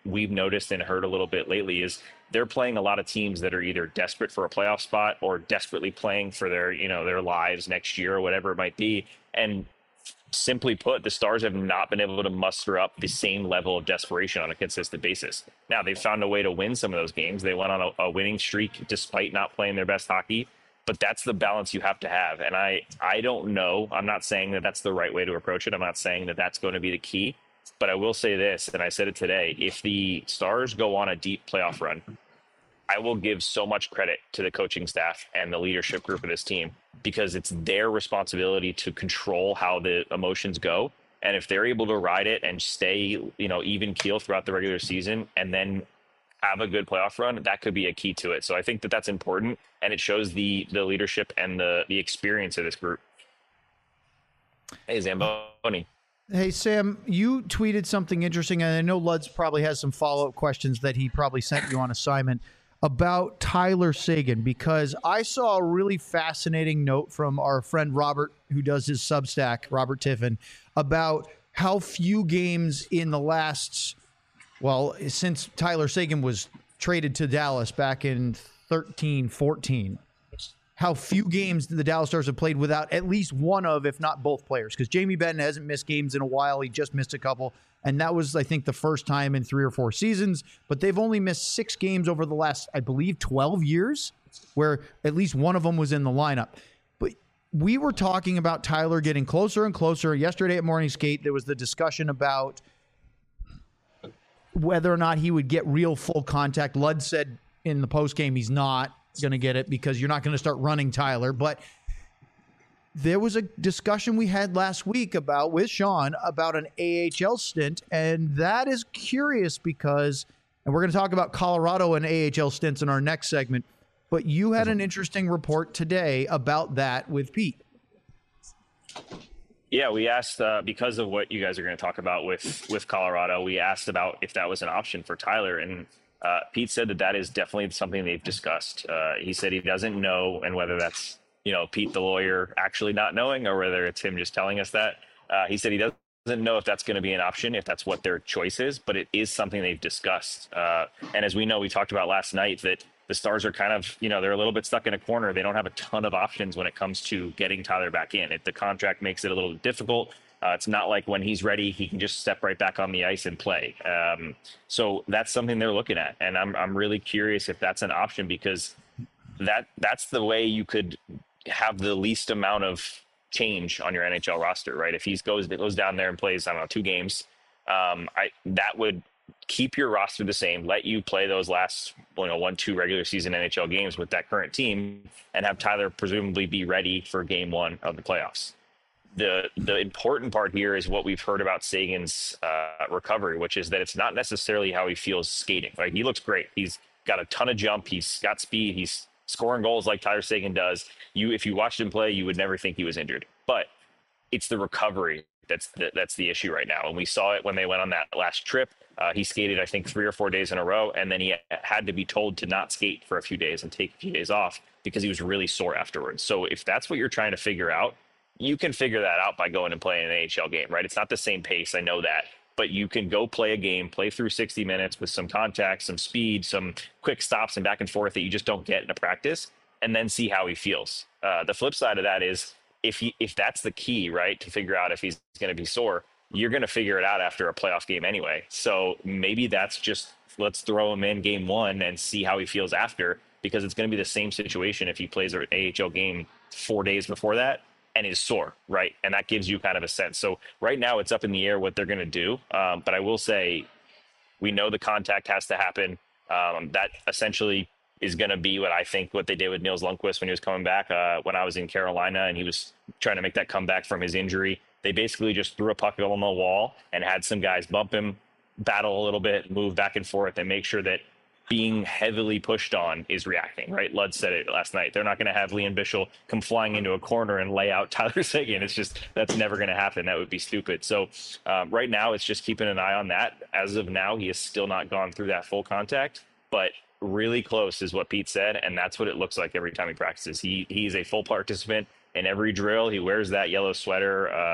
we've noticed and heard a little bit lately is they're playing a lot of teams that are either desperate for a playoff spot or desperately playing for their, you know, their lives next year or whatever it might be. And simply put, the Stars have not been able to muster up the same level of desperation on a consistent basis. Now, they've found a way to win some of those games. They went on a, a winning streak despite not playing their best hockey. But that's the balance you have to have. And I, I don't know. I'm not saying that that's the right way to approach it. I'm not saying that that's going to be the key. But I will say this, and I said it today, if the Stars go on a deep playoff run, I will give so much credit to the coaching staff and the leadership group of this team, because it's their responsibility to control how the emotions go. And if they're able to ride it and stay, you know, even keel throughout the regular season and then have a good playoff run, that could be a key to it. So I think that that's important, and it shows the the leadership and the the experience of this group. Hey, Zamboni. Hey, Sam, you tweeted something interesting, and I know Luds probably has some follow-up questions that he probably sent you on assignment about Tyler Seguin, because I saw a really fascinating note from our friend Robert, who does his Substack, Robert Tiffin, about how few games in the last, well, since Tyler Seguin was traded to Dallas back in thirteen fourteen, how few games the Dallas Stars have played without at least one of, if not both players. Because Jamie Benn hasn't missed games in a while. He just missed a couple. And that was, I think, the first time in three or four seasons. But they've only missed six games over the last, I believe, twelve years, where at least one of them was in the lineup. But we were talking about Tyler getting closer and closer. Yesterday at Morning Skate, there was the discussion about whether or not he would get real full contact. Ludd said in the postgame he's not going to get it because you're not going to start running Tyler. But there was a discussion we had last week about with Sean about an A H L stint, and that is curious because, and we're going to talk about Colorado and A H L stints in our next segment, but you had an interesting report today about that with Pete. Yeah, we asked, uh, because of what you guys are going to talk about with, with Colorado, we asked about if that was an option for Tyler, and uh, Pete said that that is definitely something they've discussed. Uh, he said he doesn't know, and whether that's, you know, Pete, the lawyer, actually not knowing, or whether it's him just telling us that. Uh, he said he doesn't know if that's going to be an option, if that's what their choice is, but it is something they've discussed. Uh, and as we know, we talked about last night that the Stars are kind of, you know, they're a little bit stuck in a corner. They don't have a ton of options when it comes to getting Tyler back in. If the contract makes it a little difficult, uh, it's not like when he's ready, he can just step right back on the ice and play. Um, so that's something they're looking at. And I'm, I'm really curious if that's an option, because that that's the way you could have the least amount of change on your N H L roster, right? If he goes goes down there and plays, I don't know, two games, um, I that would keep your roster the same, let you play those last, you know, one, two regular season N H L games with that current team, and have Tyler presumably be ready for game one of the playoffs. The the important part here is what we've heard about Seguin's uh, recovery, which is that it's not necessarily how he feels skating. Like, he looks great. He's got a ton of jump. He's got speed. He's scoring goals like Tyler Seguin does. You, if you watched him play, you would never think he was injured. But it's the recovery that's the, that's the issue right now. And we saw it when they went on that last trip. Uh, he skated, I think, three or four days in a row, and then he had to be told to not skate for a few days and take a few days off because he was really sore afterwards. So if that's what you're trying to figure out, you can figure that out by going and playing an A H L game, right? It's not the same pace, I know that, but you can go play a game, play through sixty minutes with some contact, some speed, some quick stops and back and forth that you just don't get in a practice, and then see how he feels. Uh, the flip side of that is if he, if that's the key, right, to figure out if he's going to be sore, you're going to figure it out after a playoff game anyway. So maybe that's just, let's throw him in game one and see how he feels after, because it's going to be the same situation if he plays an A H L game four days before that and is sore, right? And that gives you kind of a sense. So right now it's up in the air what they're going to do. Um, but I will say, we know the contact has to happen. Um, that essentially is going to be what I think what they did with Nils Lundkvist when he was coming back uh, when I was in Carolina and he was trying to make that comeback from his injury. They basically just threw a puck on the wall and had some guys bump him, battle a little bit, move back and forth, and make sure that being heavily pushed on is reacting, right? Ludd said it last night. They're not going to have Liam Bichsel come flying into a corner and lay out Tyler Seguin. It's just, that's never going to happen. That would be stupid. So um, right now it's just keeping an eye on that. As of now, he has still not gone through that full contact, but really close is what Pete said. And that's what it looks like every time he practices. He He's a full participant in every drill. He wears that yellow sweater uh,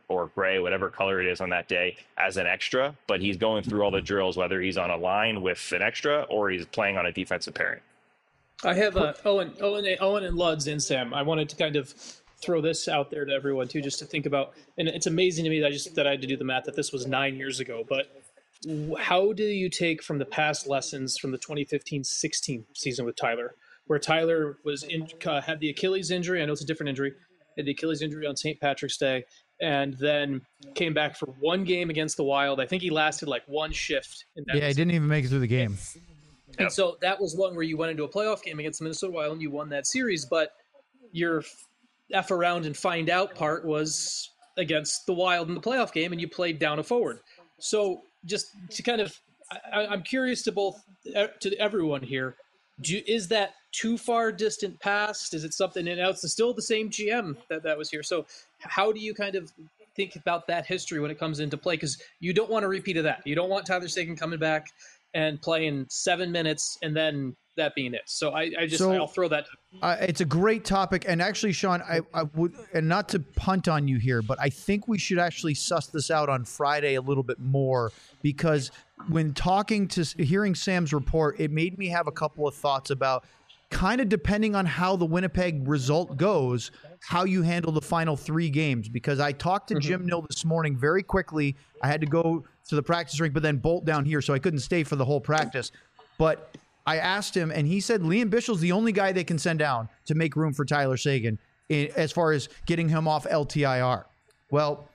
or gray, whatever color it is on that day, as an extra, but he's going through all the drills, whether he's on a line with an extra or he's playing on a defensive pairing. I have uh, Owen, Owen, Owen and Luds and Sam. I wanted to kind of throw this out there to everyone too, just to think about. And it's amazing to me that I just that I had to do the math that this was nine years ago. But how do you take from the past lessons from the twenty fifteen sixteen season with Tyler, where Tyler was in, uh, had the Achilles injury? I know it's a different injury. Had the Achilles injury on Saint Patrick's Day, and then came back for one game against the Wild. I think he lasted like one shift. In that yeah, he didn't even make it through the game. And yep. So that was one where you went into a playoff game against the Minnesota Wild and you won that series, but your F around and find out part was against the Wild in the playoff game, and you played down a forward. So just to kind of, I, I'm curious to both, to everyone here, do, is that too far distant past? Is it something, and now it's still the same G M that, that was here. So how do you kind of think about that history when it comes into play? Because you don't want a repeat of that. You don't want Tyler Seguin coming back and playing seven minutes and then that being it. So I, I just, so, I'll throw that. Uh, it's a great topic. And actually, Sean, I, I would, and not to punt on you here, but I think we should actually suss this out on Friday a little bit more, because when talking to, hearing Sam's report, it made me have a couple of thoughts about kind of depending on how the Winnipeg result goes, how you handle the final three games. Because I talked to mm-hmm. Jim Nill this morning very quickly. I had to go to the practice rink, but then bolt down here, so I couldn't stay for the whole practice. But I asked him, and he said Liam Bischel's the only guy they can send down to make room for Tyler Seguin in, as far as getting him off L T I R. Well,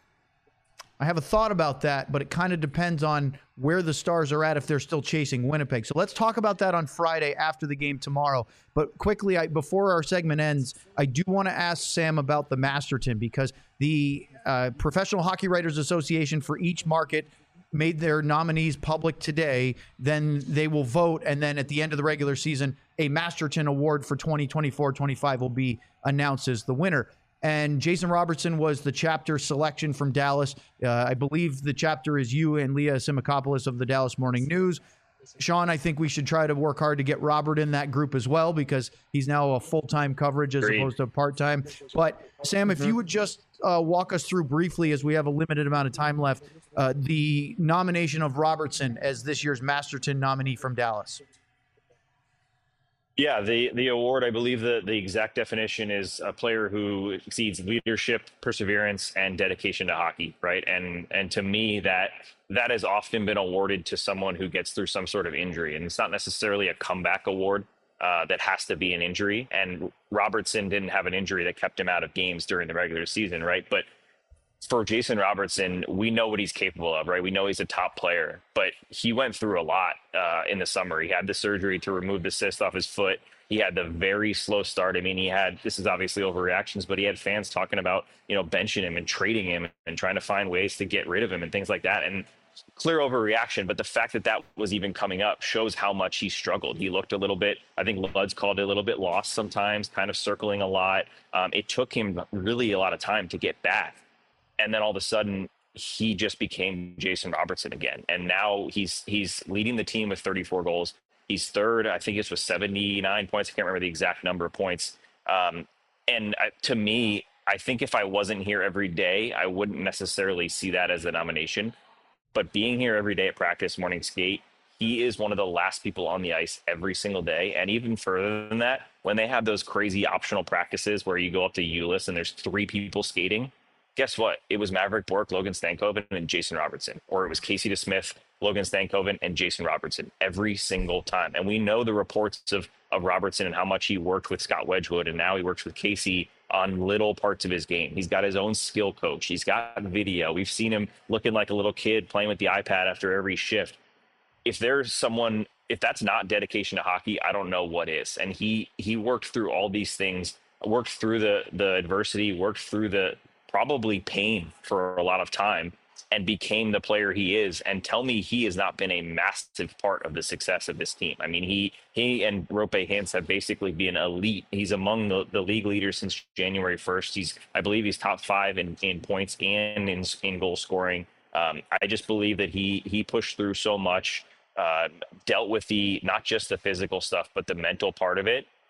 I have a thought about that, but it kind of depends on where the Stars are at if they're still chasing Winnipeg. So let's talk about that on Friday after the game tomorrow. But quickly, I, before our segment ends, I do want to ask Sam about the Masterton, because the uh, Professional Hockey Writers Association for each market made their nominees public today. Then they will vote, and then at the end of the regular season, a Masterton Award for twenty twenty-four twenty-five will be announced as the winner. And Jason Robertson was the chapter selection from Dallas. Uh, I believe the chapter is you and Leah Simakopoulos of the Dallas Morning News. Sean, I think we should try to work hard to get Robert in that group as well, because he's now a full-time coverage as Great. opposed to part-time. But Sam, if you would just uh, walk us through briefly, as we have a limited amount of time left, uh, the nomination of Robertson as this year's Masterton nominee from Dallas. Yeah, the, the award, I believe the, the exact definition is a player who exceeds leadership, perseverance, and dedication to hockey, right? And and to me, that that has often been awarded to someone who gets through some sort of injury. And it's not necessarily a comeback award uh, that has to be an injury. And Robertson didn't have an injury that kept him out of games during the regular season, right? But for Jason Robertson, we know what he's capable of, right? We know he's a top player, but he went through a lot uh, in the summer. He had the surgery to remove the cyst off his foot. He had the very slow start. I mean, he had, this is obviously overreactions, but he had fans talking about, you know, benching him and trading him and trying to find ways to get rid of him and things like that. And clear overreaction, but the fact that that was even coming up shows how much he struggled. He looked a little bit, I think Luds called it a little bit lost sometimes, kind of circling a lot. Um, it took him really a lot of time to get back. And then all of a sudden, he just became Jason Robertson again. And now he's he's leading the team with thirty-four goals. He's third. I think it's with seventy-nine points. I can't remember the exact number of points. Um, and I, to me, I think if I wasn't here every day, I wouldn't necessarily see that as a nomination. But being here every day at practice, morning skate, he is one of the last people on the ice every single day. And even further than that, when they have those crazy optional practices where you go up to Ulyss and there's three people skating, guess what? It was Maverick Bourque, Logan Stankoven, and Jason Robertson. Or it was Casey DeSmith, Logan Stankoven, and Jason Robertson every single time. And we know the reports of, of Robertson and how much he worked with Scott Wedgwood, and now he works with Casey on little parts of his game. He's got his own skill coach. He's got video. We've seen him looking like a little kid playing with the iPad after every shift. If there's someone, if that's not dedication to hockey, I don't know what is. And he he worked through all these things, worked through the the adversity, worked through the probably pain for a lot of time, and became the player he is. And tell me he has not been a massive part of the success of this team. I mean, he he and Rope Hintz have basically been elite. He's among the, the league leaders since January first. He's, I believe he's top five in, in points and in, in goal scoring. Um, I just believe that he he pushed through so much, uh, dealt with the, not just the physical stuff, but the mental part of it.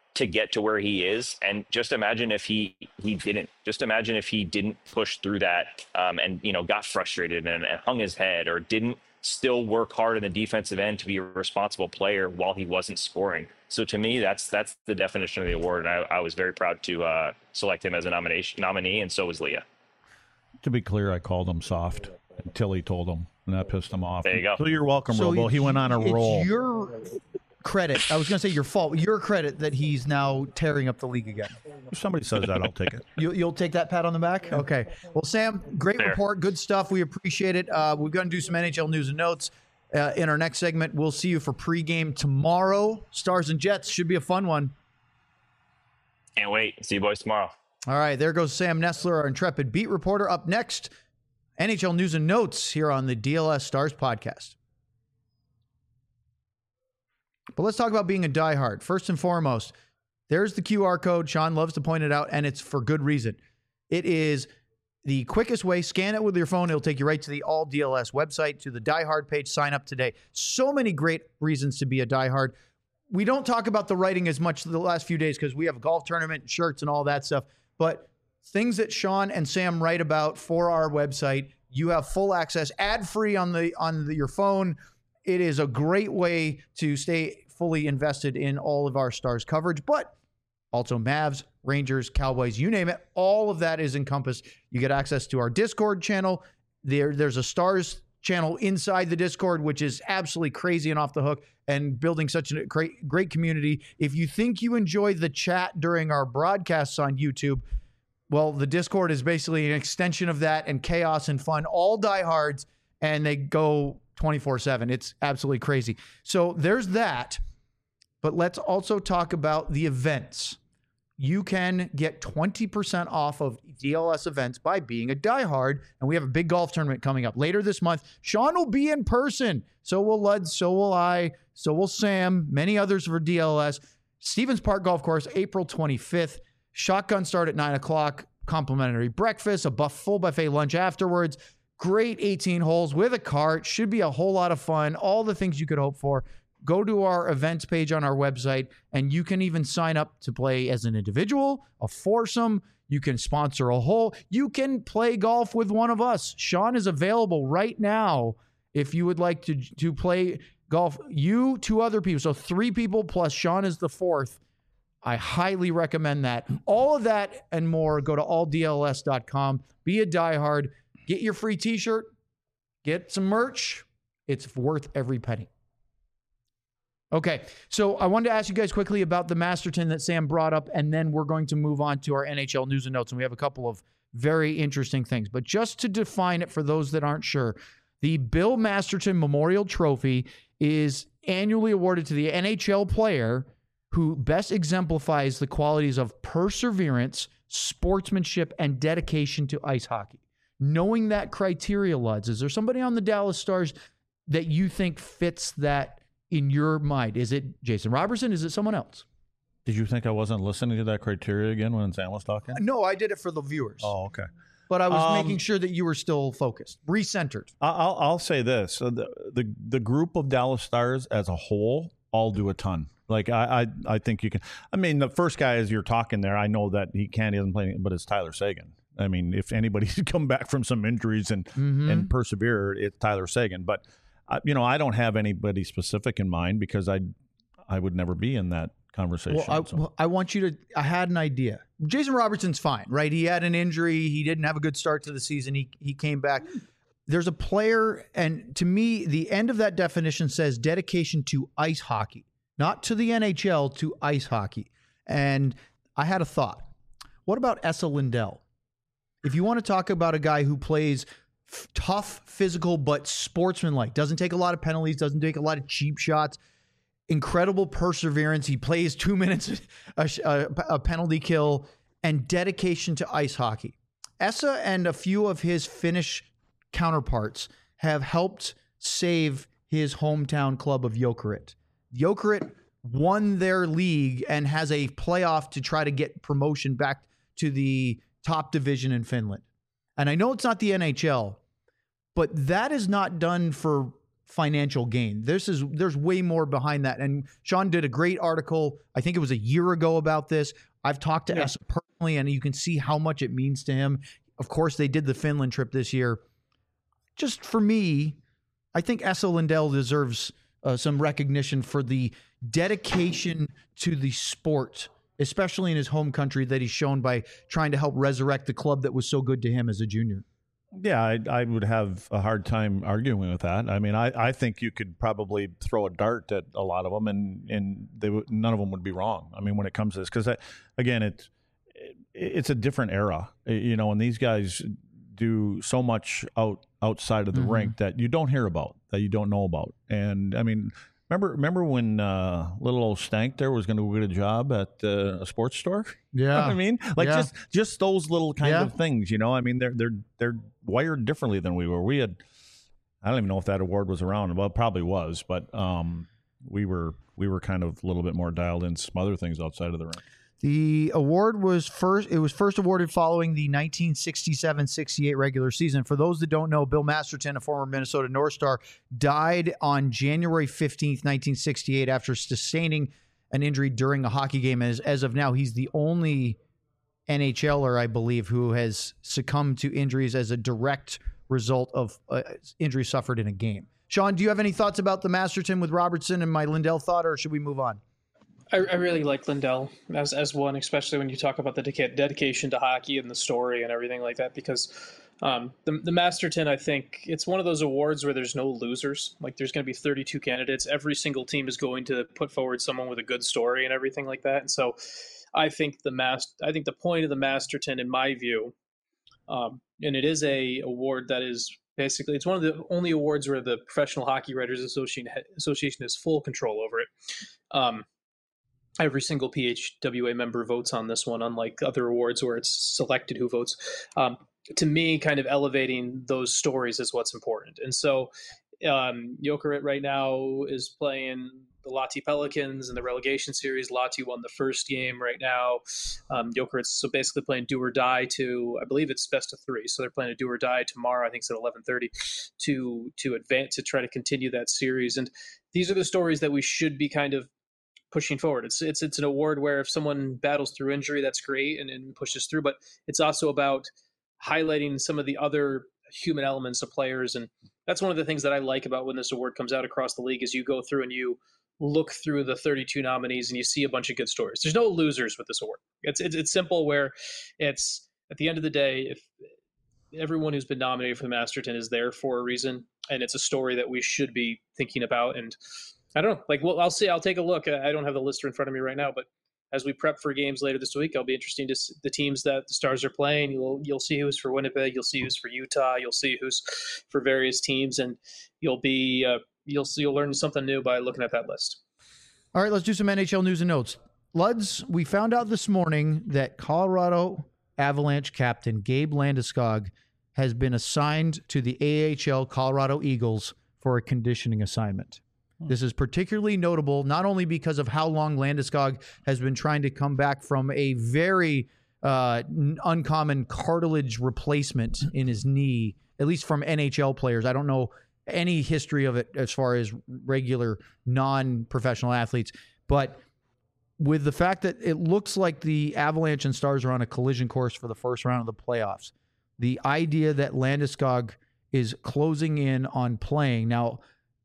to get to where he is. And just imagine if he he didn't. Just imagine if he didn't push through that um, and you know got frustrated and, and hung his head, or didn't still work hard in the defensive end to be a responsible player while he wasn't scoring. So to me, that's that's the definition of the award, and I, I was very proud to uh, select him as a nomination nominee, and so was Leah. To be clear, I called him soft until he told him, and that pissed him off. There you go. So you're welcome, So Robo. He went on a it's roll. your credit. I was going to say your fault. Your credit that he's now tearing up the league again. If somebody says that, I'll take it. You, you'll take that pat on the back? Okay. Well, Sam, great Fair. report. Good stuff. We appreciate it. Uh, we're going to do some N H L news and notes uh, in our next segment. We'll see you for pregame tomorrow. Stars and Jets should be a fun one. Can't wait. See you boys tomorrow. All right. There goes Sam Nestler, our intrepid beat reporter. Up next, N H L news and notes here on the D L S Stars podcast. But let's talk about being a diehard. First and foremost, there's the Q R code. Sean loves to point it out, and it's for good reason. It is the quickest way. Scan it with your phone. It'll take you right to the All D L S website, to the diehard page. Sign up today. So many great reasons to be a diehard. We don't talk about the writing as much the last few days because we have a golf tournament, shirts, and all that stuff. But things that Sean and Sam write about for our website, you have full access, ad-free on the on the, your phone. It is a great way to stay fully invested in all of our Stars coverage, but also Mavs, Rangers, Cowboys, you name it. All of that is encompassed. You get access to our Discord channel. There, there's a Stars channel inside the Discord, which is absolutely crazy and off the hook, and building such a great, great community. If you think you enjoy the chat during our broadcasts on YouTube, well, the Discord is basically an extension of that, and chaos and fun. All diehards, and they go twenty-four seven. It's absolutely crazy. So there's that. But let's also talk about the events. You can get twenty percent off of D L S events by being a diehard. And we have a big golf tournament coming up later this month. Sean will be in person. So will Lud. So will I. So will Sam. Many others for D L S. Stevens Park Golf Course, April twenty-fifth. Shotgun start at nine o'clock. Complimentary breakfast. A buff, full buffet lunch afterwards. Great eighteen holes with a cart. Should be a whole lot of fun. All the things you could hope for. Go to our events page on our website, and you can even sign up to play as an individual, a foursome. You can sponsor a hole. You can play golf with one of us. Sean is available right now if you would like to, to play golf. You, two other people, so three people plus Sean is the fourth. I highly recommend that. All of that and more, go to all D L S dot com. Be a diehard. Get your free t-shirt. Get some merch. It's worth every penny. Okay, so I wanted to ask you guys quickly about the Masterton that Sam brought up, and then we're going to move on to our N H L news and notes, and we have a couple of very interesting things. But just to define it for those that aren't sure, the Bill Masterton Memorial Trophy is annually awarded to the N H L player who best exemplifies the qualities of perseverance, sportsmanship, and dedication to ice hockey. Knowing that criteria, Luds, is there somebody on the Dallas Stars that you think fits that in your mind? Is it Jason Robertson? Is it someone else? Did you think I wasn't listening to that criteria again when Sam was talking? No, I did it for the viewers. Oh, okay. But I was Um, making sure that you were still focused, recentered. I- I'll I'll say this: so the, the the group of Dallas Stars as a whole all do a ton. Like I, I I think you can. I mean, the first guy as you're talking there, I know that he can't, he doesn't play, but it's Tyler Seguin. I mean, if anybody's come back from some injuries and Mm-hmm. and persevere, it's Tyler Seguin. But I, you know, I don't have anybody specific in mind because I I would never be in that conversation. Well, I, so. well, I want you to. I had an idea. Jason Robertson's fine, right? He had an injury. He didn't have a good start to the season. He he came back. There's a player, and to me, the end of that definition says dedication to ice hockey, not to the N H L, to ice hockey. And I had a thought. What about Esa Lindell? If you want to talk about a guy who plays f- tough, physical, but sportsmanlike, doesn't take a lot of penalties, doesn't take a lot of cheap shots, incredible perseverance. He plays two minutes a, a, a penalty kill, and dedication to ice hockey. Esa and a few of his Finnish counterparts have helped save his hometown club of Jokerit. Jokerit won their league and has a playoff to try to get promotion back to the top division in Finland. And I know it's not the N H L, but that is not done for financial gain. This is there's way more behind that. And Sean did a great article, I think it was a year ago, about this. I've talked to yeah. Essa personally, and you can see how much it means to him. Of course, they did the Finland trip this year. Just for me, I think Esa Lindell deserves uh, some recognition for the dedication to the sport, especially in his home country, that he's shown by trying to help resurrect the club that was so good to him as a junior. Yeah, I, I would have a hard time arguing with that. I mean, I, I think you could probably throw a dart at a lot of them, and and they would, none of them would be wrong. I mean, when it comes to this, because again, it's it, it's a different era, you know, and these guys do so much out outside of the mm-hmm. rink that you don't hear about, that you don't know about. And I mean, remember remember when uh, little old Stank there was going to get a job at uh, a sports store? Yeah, you know what I mean, like yeah. just just those little kind yeah. of things, you know. I mean, they're they're they're wired differently than we were. We had, I don't even know if that award was around. Well, it probably was, but um, we were we were kind of a little bit more dialed in some other things outside of the rink. The award was first. It was first awarded following the nineteen sixty-seven sixty-eight regular season. For those that don't know, Bill Masterton, a former Minnesota North Star, died on January fifteenth, nineteen sixty-eight, after sustaining an injury during a hockey game. As as of now, he's the only N H L er, I believe, who has succumbed to injuries as a direct result of uh, injury suffered in a game. Sean, do you have any thoughts about the Masterton with Robertson and my Lindell thought, or should we move on? I, I really like Lindell as as one, especially when you talk about the de- dedication to hockey and the story and everything like that, because um, the, the Masterton, I think it's one of those awards where there's no losers. Like, there's going to be thirty-two candidates. Every single team is going to put forward someone with a good story and everything like that. And so I think the mas- I think the point of the Masterton, in my view, um, and it is a award that is basically, it's one of the only awards where the Professional Hockey Writers Association, Association has full control over it. Um, Every single P H W A member votes on this one, unlike other awards where it's selected who votes. Um, to me, kind of elevating those stories is what's important. And so um, Jokerit right now is playing the Lahti Pelicans in the relegation series. Lahti won the first game right now. Um, Jokerit's so basically playing do or die to, I believe it's best of three. So they're playing a do or die tomorrow. I think it's at eleven thirty to to advance, to try to continue that series. And these are the stories that we should be kind of pushing forward. It's it's it's an award where if someone battles through injury, that's great and, and pushes through, but it's also about highlighting some of the other human elements of players. And that's one of the things that I like about when this award comes out across the league, is you go through and you look through the thirty-two nominees and you see a bunch of good stories. There's no losers with this award. It's it's, it's simple, where it's, at the end of the day, if everyone who's been nominated for the Masterton is there for a reason, and it's a story that we should be thinking about. And I don't know, like, well, I'll see. I'll take a look. I don't have the list in front of me right now, but as we prep for games later this week, I'll be interested to see the teams that the Stars are playing. You'll you'll see who's for Winnipeg. You'll see who's for Utah. You'll see who's for various teams, and you'll be uh, you'll see you'll learn something new by looking at that list. All right, let's do some N H L news and notes. Luds, we found out this morning that Colorado Avalanche captain Gabe Landeskog has been assigned to the A H L Colorado Eagles for a conditioning assignment. This is particularly notable, not only because of how long Landeskog has been trying to come back from a very uh, uncommon cartilage replacement in his knee, at least from N H L players. I don't know any history of it as far as regular non-professional athletes, but with the fact that it looks like the Avalanche and Stars are on a collision course for the first round of the playoffs, the idea that Landeskog is closing in on playing now.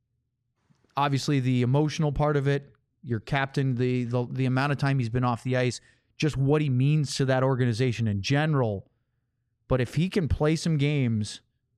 Obviously, the emotional part of it, your captain, the, the the amount of time he's been off the ice, just what he means to that organization in general. But if he can play some games,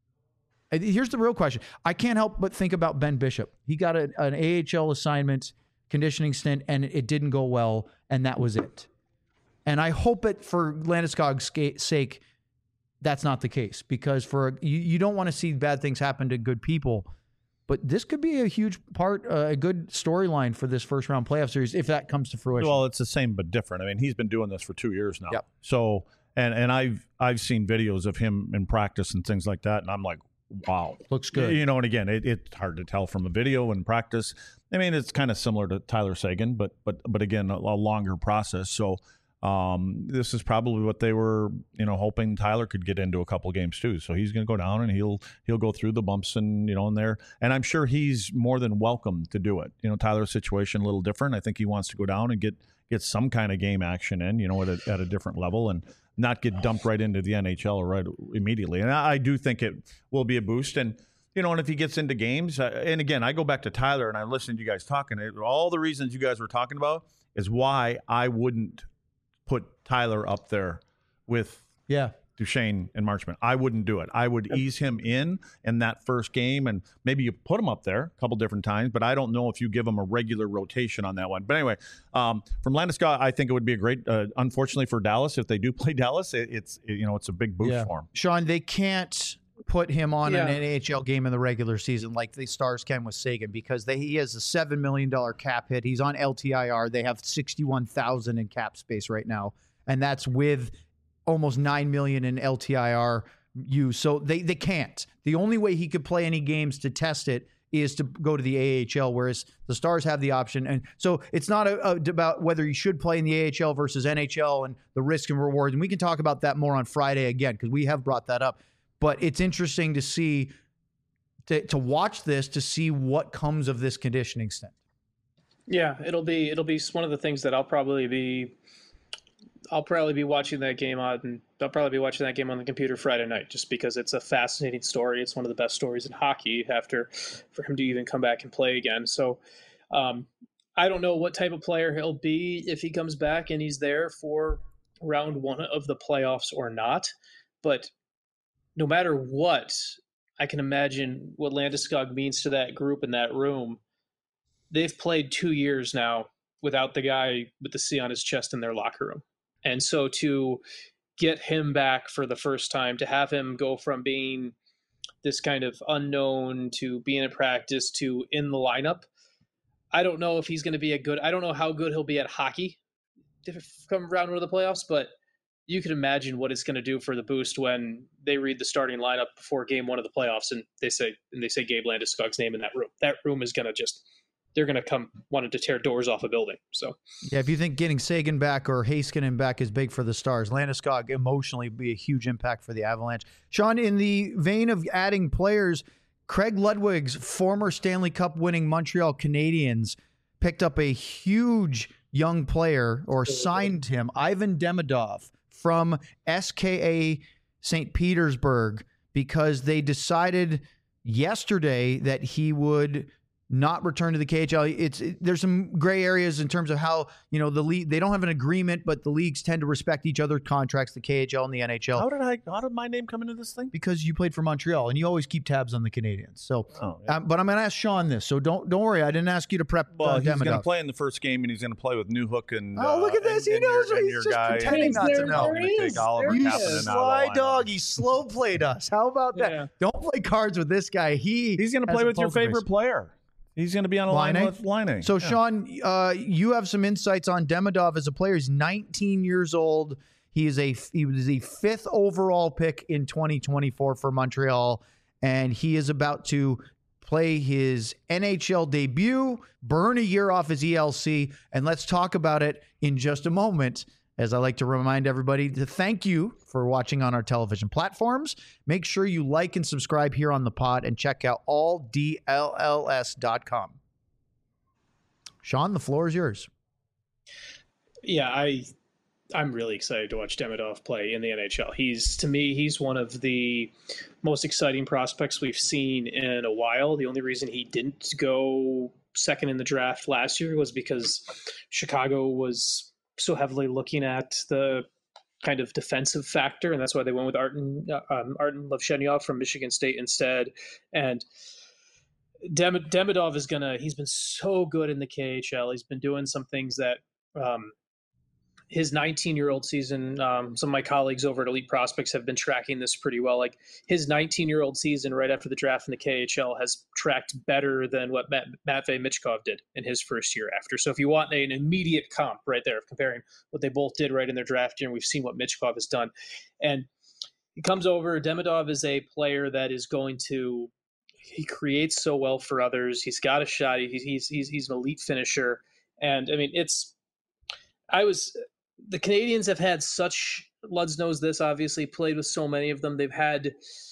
here's the real question. I can't help but think about Ben Bishop. He got a, an A H L assignment, conditioning stint, and it didn't go well, and that was it. And I hope it, for Landeskog's sake, that's not the case, because for you, you don't want to see bad things happen to good people. But this could be a huge part, uh, a good storyline for this first round playoff series if that comes to fruition. Well, it's the same but different. I mean, he's been doing this for two years now. Yep. So, and and I've I've seen videos of him in practice and things like that, and I'm like, wow, looks good. You know, and again, it, it's hard to tell from a video and practice. I mean, it's kind of similar to Tyler Seguin, but but but again, a, a longer process. So, Um, this is probably what they were, you know, hoping Tyler could get into a couple games too. So he's going to go down and he'll he'll go through the bumps and, you know, in there. And I'm sure he's more than welcome to do it. You know, Tyler's situation a little different. I think he wants to go down and get get some kind of game action in, you know, at a, at a different level and not get dumped right into the N H L right immediately. And I, I do think it will be a boost. And, you know, and if he gets into games, uh, and again, I go back to Tyler and I listen to you guys talking, all the reasons you guys were talking about is why I wouldn't put Tyler up there with yeah. Duchesne and Marchment. I wouldn't do it. I would ease him in in that first game, and maybe you put him up there a couple different times, but I don't know if you give him a regular rotation on that one. But anyway, um, from Landeskog, I think it would be a great, uh, unfortunately for Dallas, if they do play Dallas, it, it's, it, you know, it's a big boost yeah. for him. Sean, they can't put him on yeah. an N H L game in the regular season like the Stars can with Seguin because they, he has a seven million dollars cap hit. He's on L T I R. They have sixty-one thousand in cap space right now. And that's with almost nine million in L T I R use. So they, they can't. The only way he could play any games to test it is to go to the A H L, whereas the Stars have the option. And so it's not a, a, about whether you should play in the A H L versus N H L and the risk and rewards. And we can talk about that more on Friday again, because we have brought that up. But it's interesting to see, to, to watch this, to see what comes of this conditioning stint. Yeah, it'll be, it'll be one of the things that I'll probably be, I'll probably be watching that game on, and I'll probably be watching that game on the computer Friday night, just because it's a fascinating story. It's one of the best stories in hockey after, for him to even come back and play again. So um, I don't know what type of player he'll be if he comes back and he's there for round one of the playoffs or not. But no matter what, I can imagine what Landeskog means to that group in that room. They've played two years now without the guy with the C on his chest in their locker room. And so to get him back for the first time, to have him go from being this kind of unknown to being in practice to in the lineup, I don't know if he's going to be a good, I don't know how good he'll be at hockey to come around to the playoffs, but you can imagine what it's going to do for the boost when they read the starting lineup before game one of the playoffs and they say, and they say Gabe Landeskog's name in that room. That room is going to just, they're going to come wanting to tear doors off a building. So, yeah, if you think getting Seguin back or Heiskanen back is big for the Stars, Landeskog emotionally would be a huge impact for the Avalanche. Sean, in the vein of adding players, Craig Ludwig's former Stanley Cup winning Montreal Canadiens picked up a huge young player or signed him, Ivan Demidov from S K A Saint Petersburg, because they decided yesterday that he would not return to the K H L. It's it, there's some gray areas in terms of how, you know, the league, they don't have an agreement, but the leagues tend to respect each other's contracts, the K H L and the N H L. How did I? How did my name come into this thing? Because you played for Montreal and you always keep tabs on the Canadians. So, oh, yeah. um, but I'm going to ask Sean this. So don't don't worry. I didn't ask you to prep. Well, uh, he's going to Demidov. play in the first game, and he's going to play with Newhook and. Oh, look at uh, this! And, He and knows. Your, and He's your just guy, pretending not to know. There Take is. Oliver There You Kapanen is. out of the sly lineup. dog. He slow played us. How about that? Yeah. Don't play cards with this guy. He He's going to has play a with your poker face. favorite player. He's going to be on a line Laine? with Laine. So, Yeah. Sean, uh, you have some insights on Demidov as a player. He's nineteen years old. He is a he was the fifth overall pick in twenty twenty-four for Montreal, and he is about to play his N H L debut, burn a year off his E L C, and let's talk about it in just a moment. As I like to remind everybody to thank you for watching on our television platforms. Make sure you like and subscribe here on the pod and check out all D L L S dot com. Sean, the floor is yours. Yeah, I, I'm really excited to watch Demidov play in the N H L. He's, to me, he's one of the most exciting prospects we've seen in a while. The only reason he didn't go second in the draft last year was because Chicago was so heavily looking at the kind of defensive factor, and that's why they went with Artem um, Artem Levshenyov from Michigan State instead. And Dem- Demidov is gonna. He's been so good in the K H L. He's been doing some things that um, his nineteen-year-old season. Um, some of my colleagues over at Elite Prospects have been tracking this pretty well. Like his nineteen-year-old season right after the draft in the K H L has tracked better than what Matt, Matvei Michkov did in his first year after. So if you want an immediate comp right there of comparing what they both did right in their draft year, and we've seen what Michkov has done. And he comes over. Demidov is a player that is going to he creates so well for others. He's got a shot. He's he's he's, he's an elite finisher. And I mean, it's I was the Canadians have had such, Luds knows this, obviously, played with so many of them. They've had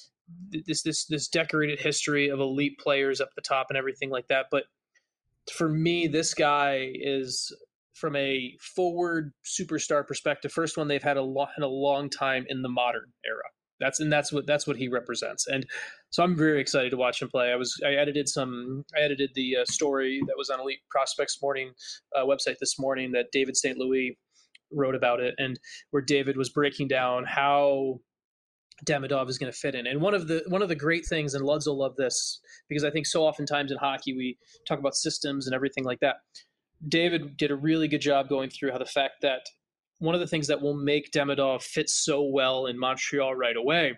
this this this decorated history of elite players up the top and everything like that. But for me, this guy is, from a forward superstar perspective, first one they've had a long, in a long time in the modern era. That's and that's what that's what he represents. And so I'm very excited to watch him play. I was I edited some I edited the uh, story that was on Elite Prospects Morning uh, website this morning that David Saint Louis wrote about it, and where David was breaking down how Demidov is going to fit in. And one of the one of the great things, and Luds will love this, because I think so oftentimes in hockey we talk about systems and everything like that. David did a really good job going through how the fact that one of the things that will make Demidov fit so well in Montreal right away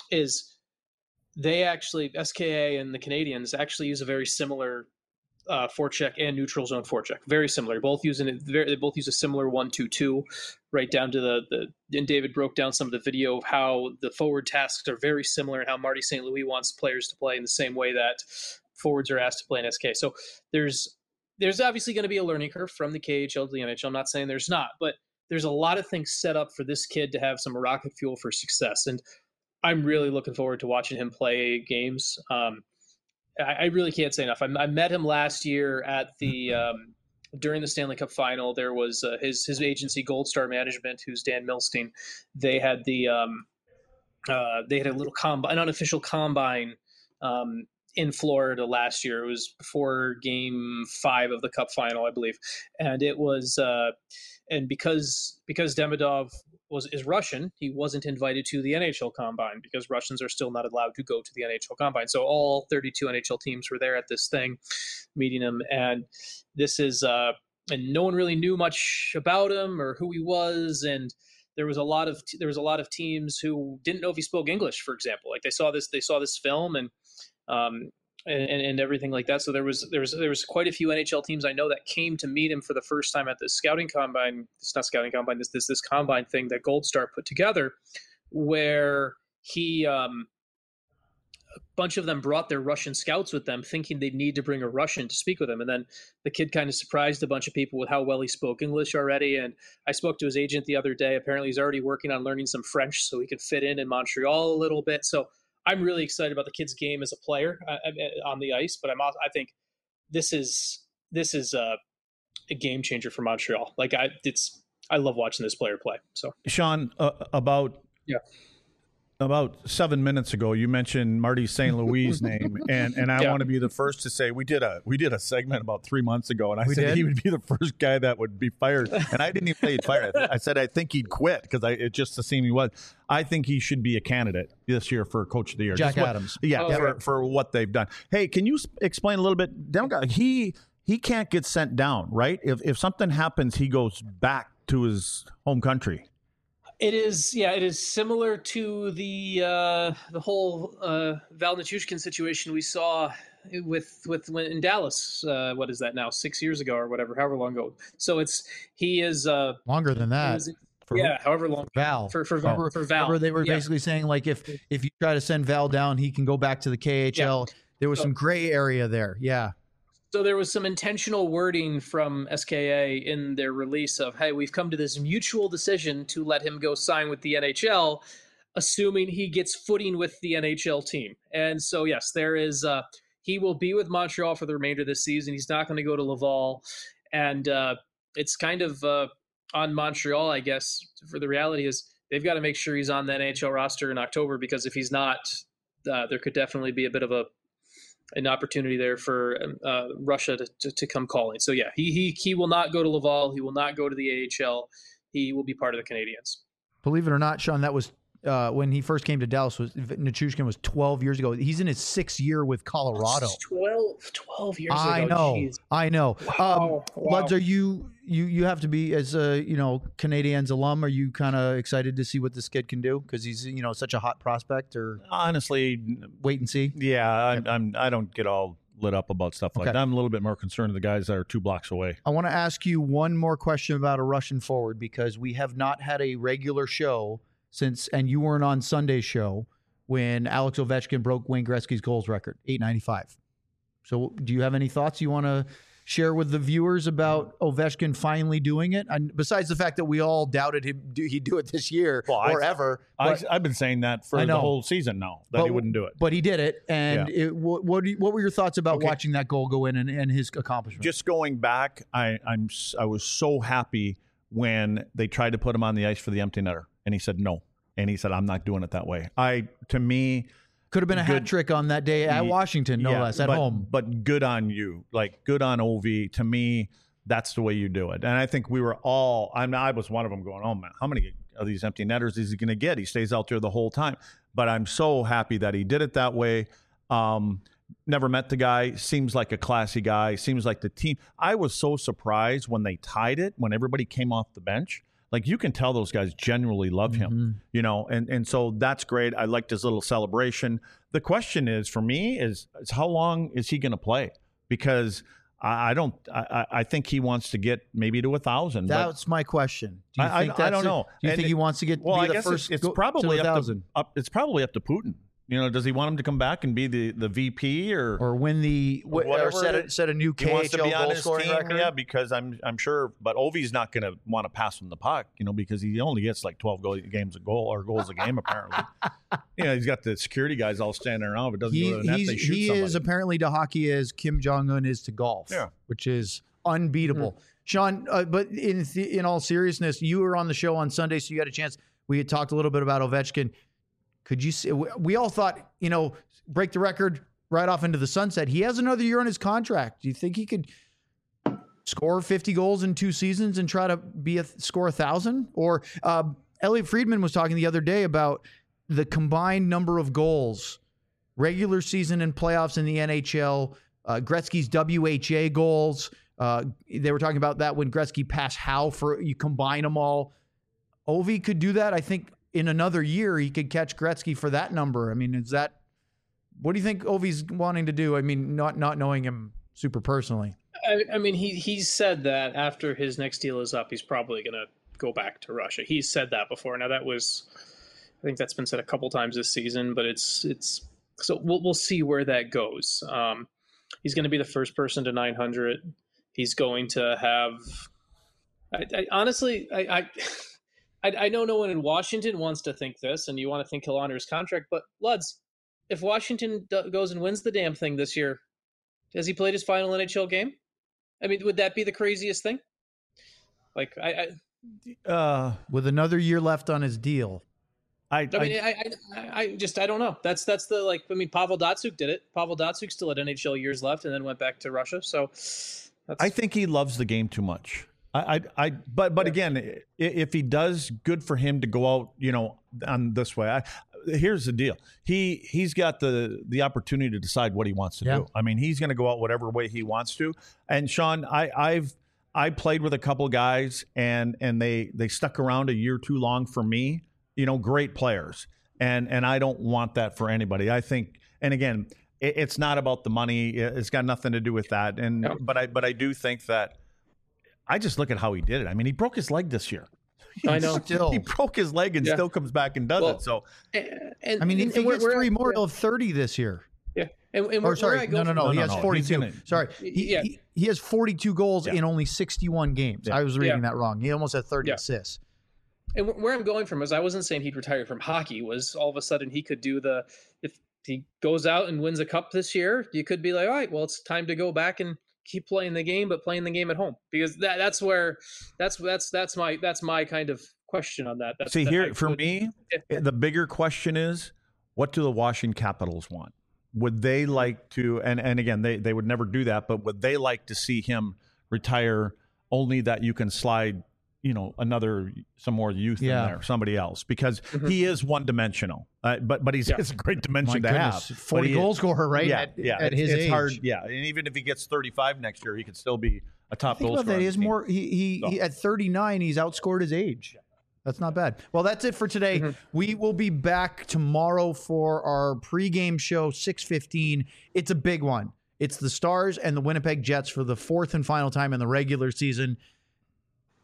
is they actually, S K A and the Canadians actually use a very similar uh, forecheck and neutral zone forecheck. Very similar. Both using it. They both use a similar one two two, right down to the the. And David broke down some of the video of how the forward tasks are very similar, and how Marty Saint Louis wants players to play in the same way that forwards are asked to play in S K. So there's there's obviously going to be a learning curve from the K H L to the N H L. I'm not saying there's not, but there's a lot of things set up for this kid to have some rocket fuel for success. And I'm really looking forward to watching him play games. Um, I, I really can't say enough. I, I met him last year at the um, during the Stanley Cup final. There was uh, his his agency, Gold Star Management, who's Dan Milstein. They had the um, uh, they had a little combine, an unofficial combine um, in Florida last year. It was before Game Five of the Cup final, I believe, and it was. Uh, And because because Demidov was is Russian, he wasn't invited to the N H L Combine, because Russians are still not allowed to go to the N H L Combine. So all thirty-two N H L teams were there at this thing, meeting him. And this is uh, and no one really knew much about him or who he was. And there was a lot of there was a lot of teams who didn't know if he spoke English, for example. Like they saw this they saw this film and. Um, And, and everything like that. So there was there was there was quite a few N H L teams I know that came to meet him for the first time at this scouting combine. It's not scouting combine. This this this combine thing that Gold Star put together, where he um, a bunch of them brought their Russian scouts with them, thinking they'd need to bring a Russian to speak with him. And then the kid kind of surprised a bunch of people with how well he spoke English already. And I spoke to his agent the other day. Apparently, he's already working on learning some French so he could fit in in Montreal a little bit. So. I'm really excited about the kid's game as a player uh, on the ice, but I'm also, I think this is this is a, a game changer for Montreal. Like I, it's I love watching this player play. So Sean, uh, about yeah. About seven minutes ago, you mentioned Marty Saint Louis' name, and, and I yeah. want to be the first to say we did a we did a segment about three months ago, and I We said did? he would be the first guy that would be fired, and I didn't even say he'd fired. I said I think he'd quit because I it just assumed he was. I think he should be a candidate this year for Coach of the Year. Jack Just what- Adams. yeah, Oh, for, okay. for what they've done. Hey, can you s- explain a little bit? Demko, he he can't get sent down, right? If if something happens, he goes back to his home country. It is, yeah, it is similar to the uh, the whole uh, Val Nichushkin situation we saw with with when in Dallas. Uh, what is that now? Six years ago or whatever, however long ago. So it's he is uh, Longer than he that. was- For yeah, however long Val. for for, Remember, for Val. remember they were Yeah. basically saying like if if you try to send Val down, he can go back to the K H L. There was So- some gray area there. Yeah. So there was some intentional wording from S K A in their release of, hey, we've come to this mutual decision to let him go sign with the N H L, assuming he gets footing with the N H L team. And so, yes, there is, uh, he will be with Montreal for the remainder of this season. He's not going to go to Laval. And uh, it's kind of uh, on Montreal, I guess, for the reality is they've got to make sure he's on the N H L roster in October, because if he's not, uh, there could definitely be a bit of a, an opportunity there for uh, Russia to, to, to come calling. So yeah, he, he, he will not go to Laval. He will not go to the A H L. He will be part of the Canadians. Believe it or not, Sean, that was uh, when he first came to Dallas. Was Nichushkin was twelve years ago. He's in his sixth year with Colorado. twelve, twelve years I ago. know, Jeez. I know. Wow, Um, wow. Luds, are you you you have to be as a you know Canadiens alum? Are you kind of excited to see what this kid can do because he's you know such a hot prospect? Or Honestly, wait and see. yeah, I'm, I'm I don't get all lit up about stuff like Okay. that. I'm a little bit more concerned of the guys that are two blocks away. I want to ask you one more question about a Russian forward, because we have not had a regular show since, and you weren't on Sunday's show when Alex Ovechkin broke Wayne Gretzky's goals record, eight ninety-five. So do you have any thoughts you want to share with the viewers about Ovechkin finally doing it? And besides the fact that we all doubted him, do, he'd do it this year Well, or I- ever. I, but- I've been saying that for I know. the whole season now, that but- he wouldn't do it. But he did it. And Yeah. it, what, what, do you- what were your thoughts about Okay. watching that goal go in and, and his accomplishment? Just going back, I, I'm s- I was so happy when they tried to put him on the ice for the empty netter, and he said no, and he said I'm not doing it that way. I to me, Could have been a hat good- trick on that day at Ye- Washington, no yeah, less, at but, home. But good on you, like good on O V. To me, that's the way you do it. And I think we were all. I mean, I was one of them going, oh man, how many of these empty netters is he going to get? He stays out there the whole time. But I'm so happy that he did it that way. Um, Never met the guy. Seems like a classy guy. Seems like the team. I was so surprised when they tied it, when everybody came off the bench. Like you can tell those guys genuinely love him, Mhm. you know, and, and so that's great. I liked his little celebration. The question is for me is, is how long is he going to play? Because I, I don't, I, I think he wants to get maybe to a thousand. but That's my question. Do you I- I- think I that's don't it? know. Do you And think it- he wants to get well, be I the guess first it's, it's go- probably to a up thousand? to, up, it's probably up to Putin. You know, does he want him to come back and be the, the V P or or win the Or or whatever set it a, is. set a new he K wants H to L be on goal his scoring team? record? Yeah, because I'm I'm sure, but Ovi's not going to want to pass him the puck, you know, because he only gets like twelve goal, games a goal or goals a game apparently. You know, he's got the security guys all standing around. If it doesn't He, go to the net, he's- they shoot he somebody. is apparently to hockey as Kim Jong Un is to golf, Yeah. which is unbeatable. Sean, uh, but in th- in all seriousness, you were on the show on Sunday, so you had a chance. We had talked a little bit about Ovechkin. Could you see? We all thought, you know, break the record right off into the sunset. He has another year on his contract. Do you think he could score fifty goals in two seasons and try to be a score a thousand? Or uh, Elliot Friedman was talking the other day about the combined number of goals, regular season and playoffs in the N H L, uh, Gretzky's W H A goals. Uh, they were talking about that when Gretzky passed Howe for you combine them all. Ovi could do that. I think in another year he could catch Gretzky for that number. I mean, is that what do you think Ovi's wanting to do? I mean, not not knowing him super personally. I, I mean, he he's said that after his next deal is up, he's probably going to go back to Russia. He's said that before. Now that was, I think that's been said a couple times this season, but it's it's so we'll we'll see where that goes. Um, he's going to be the first person to nine hundred. He's going to have. I, I honestly, I, I I I know no one in Washington wants to think this, and you want to think he'll honor his contract, but Luds, if Washington do- goes and wins the damn thing this year, has he played his final N H L game? I mean, would that be the craziest thing? Like, I, I, uh, With another year left on his deal. I, I mean, I, I, I just, I don't know. That's, that's the like. I mean, Pavel Datsyuk did it. Pavel Datsyuk still had N H L years left, and then went back to Russia. So, that's, I think he loves the game too much. I, I, I but, but Yeah. again, i- if he does, good for him to go out, you know, on this way. I, here's the deal: he he's got the the opportunity to decide what he wants to Yeah. do. I mean, he's going to go out whatever way he wants to. And Sean, I, I've I played with a couple guys, and and they they stuck around a year too long for me. You know, great players, and and I don't want that for anybody. I think, and again, it, it's not about the money. It's got nothing to do with that. And No. but I but I do think that. I just look at how he did it. I mean, he broke his leg this year. I know. Still. He broke his leg and Yeah. still comes back and does Well, it. So and I mean, and, if he where- gets where- three more, yeah, he'll have thirty this year. yeah. And, and Or where, where sorry, I go no, no, from- no, No, He no, has no. He's forty-two. gonna- Sorry, he, Yeah. he, he has forty-two goals Yeah. in only sixty-one games. Yeah. I was reading Yeah. that wrong. He almost had thirty Yeah. assists. And wh- where I'm going from is I wasn't saying he'd retire from hockey. Was all of a sudden he could do the if he goes out and wins a cup this year, you could be like, all right, well, it's time to go back and keep playing the game, but playing the game at home, because that that's where that's that's that's my that's my kind of question on that. That's see that here I for would- me, Yeah. the bigger question is, what do the Washington Capitals want? Would they like to? And and again, they they would never do that, but would they like to see him retire? Only that you can slide, you know, another some more youth Yeah. in there, somebody else, because Mhm. he is one dimensional. Uh, but but he's Yeah. it's a great My dimension to goodness, have. forty But he goal is- scorer, right? Yeah, at, yeah. at it's, his it's age. hard. Yeah, and even if he gets thirty-five next year, he could still be a top Think goal about scorer. that. He on has the team. more. He, he, he at thirty-nine, he's outscored his age. That's not bad. Well, that's it for today. Mhm. We will be back tomorrow for our pregame show, six fifteen. It's a big one. It's the Stars and the Winnipeg Jets for the fourth and final time in the regular season.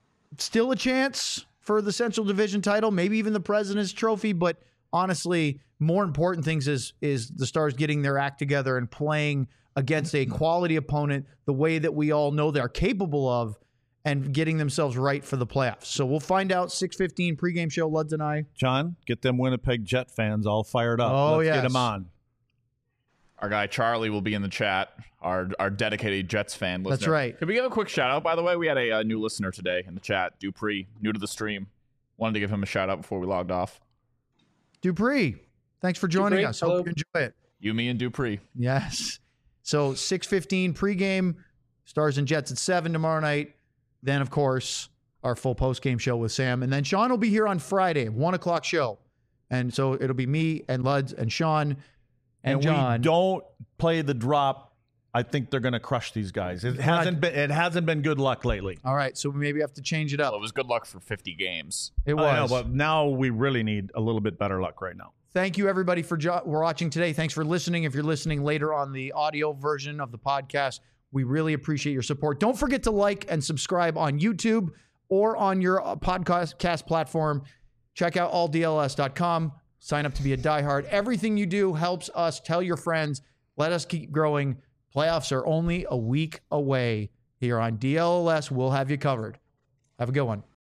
Still a chance for the Central Division title, maybe even the President's Trophy, but honestly, more important things is is the Stars getting their act together and playing against a quality opponent the way that we all know they're capable of, and getting themselves right for the playoffs. So we'll find out. six fifteen pregame show, Luds and I. John, get them Winnipeg Jet fans all fired up. Oh, Let's yes. get them on. Our guy Charlie will be in the chat, our our dedicated Jets fan listener. That's right. Could we give a quick shout out, by the way? We had a, a new listener today in the chat, Dupree, new to the stream. Wanted to give him a shout out before we logged off. Dupree, thanks for joining Dupree, us. hello. Hope you enjoy it. You, me, and Dupree. Yes. So six fifteen pregame, Stars and Jets at seven tomorrow night. Then, of course, our full postgame show with Sam. And then Sean will be here on Friday, one o'clock show. And so it'll be me and Luds and Sean and, And John. we don't play the drop. I think they're going to crush these guys. It hasn't been. It hasn't been good luck lately. All right, so we maybe have to change it up. Well, it was good luck for fifty games. It I know, was. but now we really need a little bit better luck right now. Thank you, everybody, for jo- watching today. Thanks for listening. If you're listening later on the audio version of the podcast, we really appreciate your support. Don't forget to like and subscribe on YouTube or on your uh, podcast platform. Check out all D L S dot com. Sign up to be a diehard. Everything you do helps us. Tell your friends. Let us keep growing. Playoffs are only a week away here on D L S. We'll have you covered. Have a good one.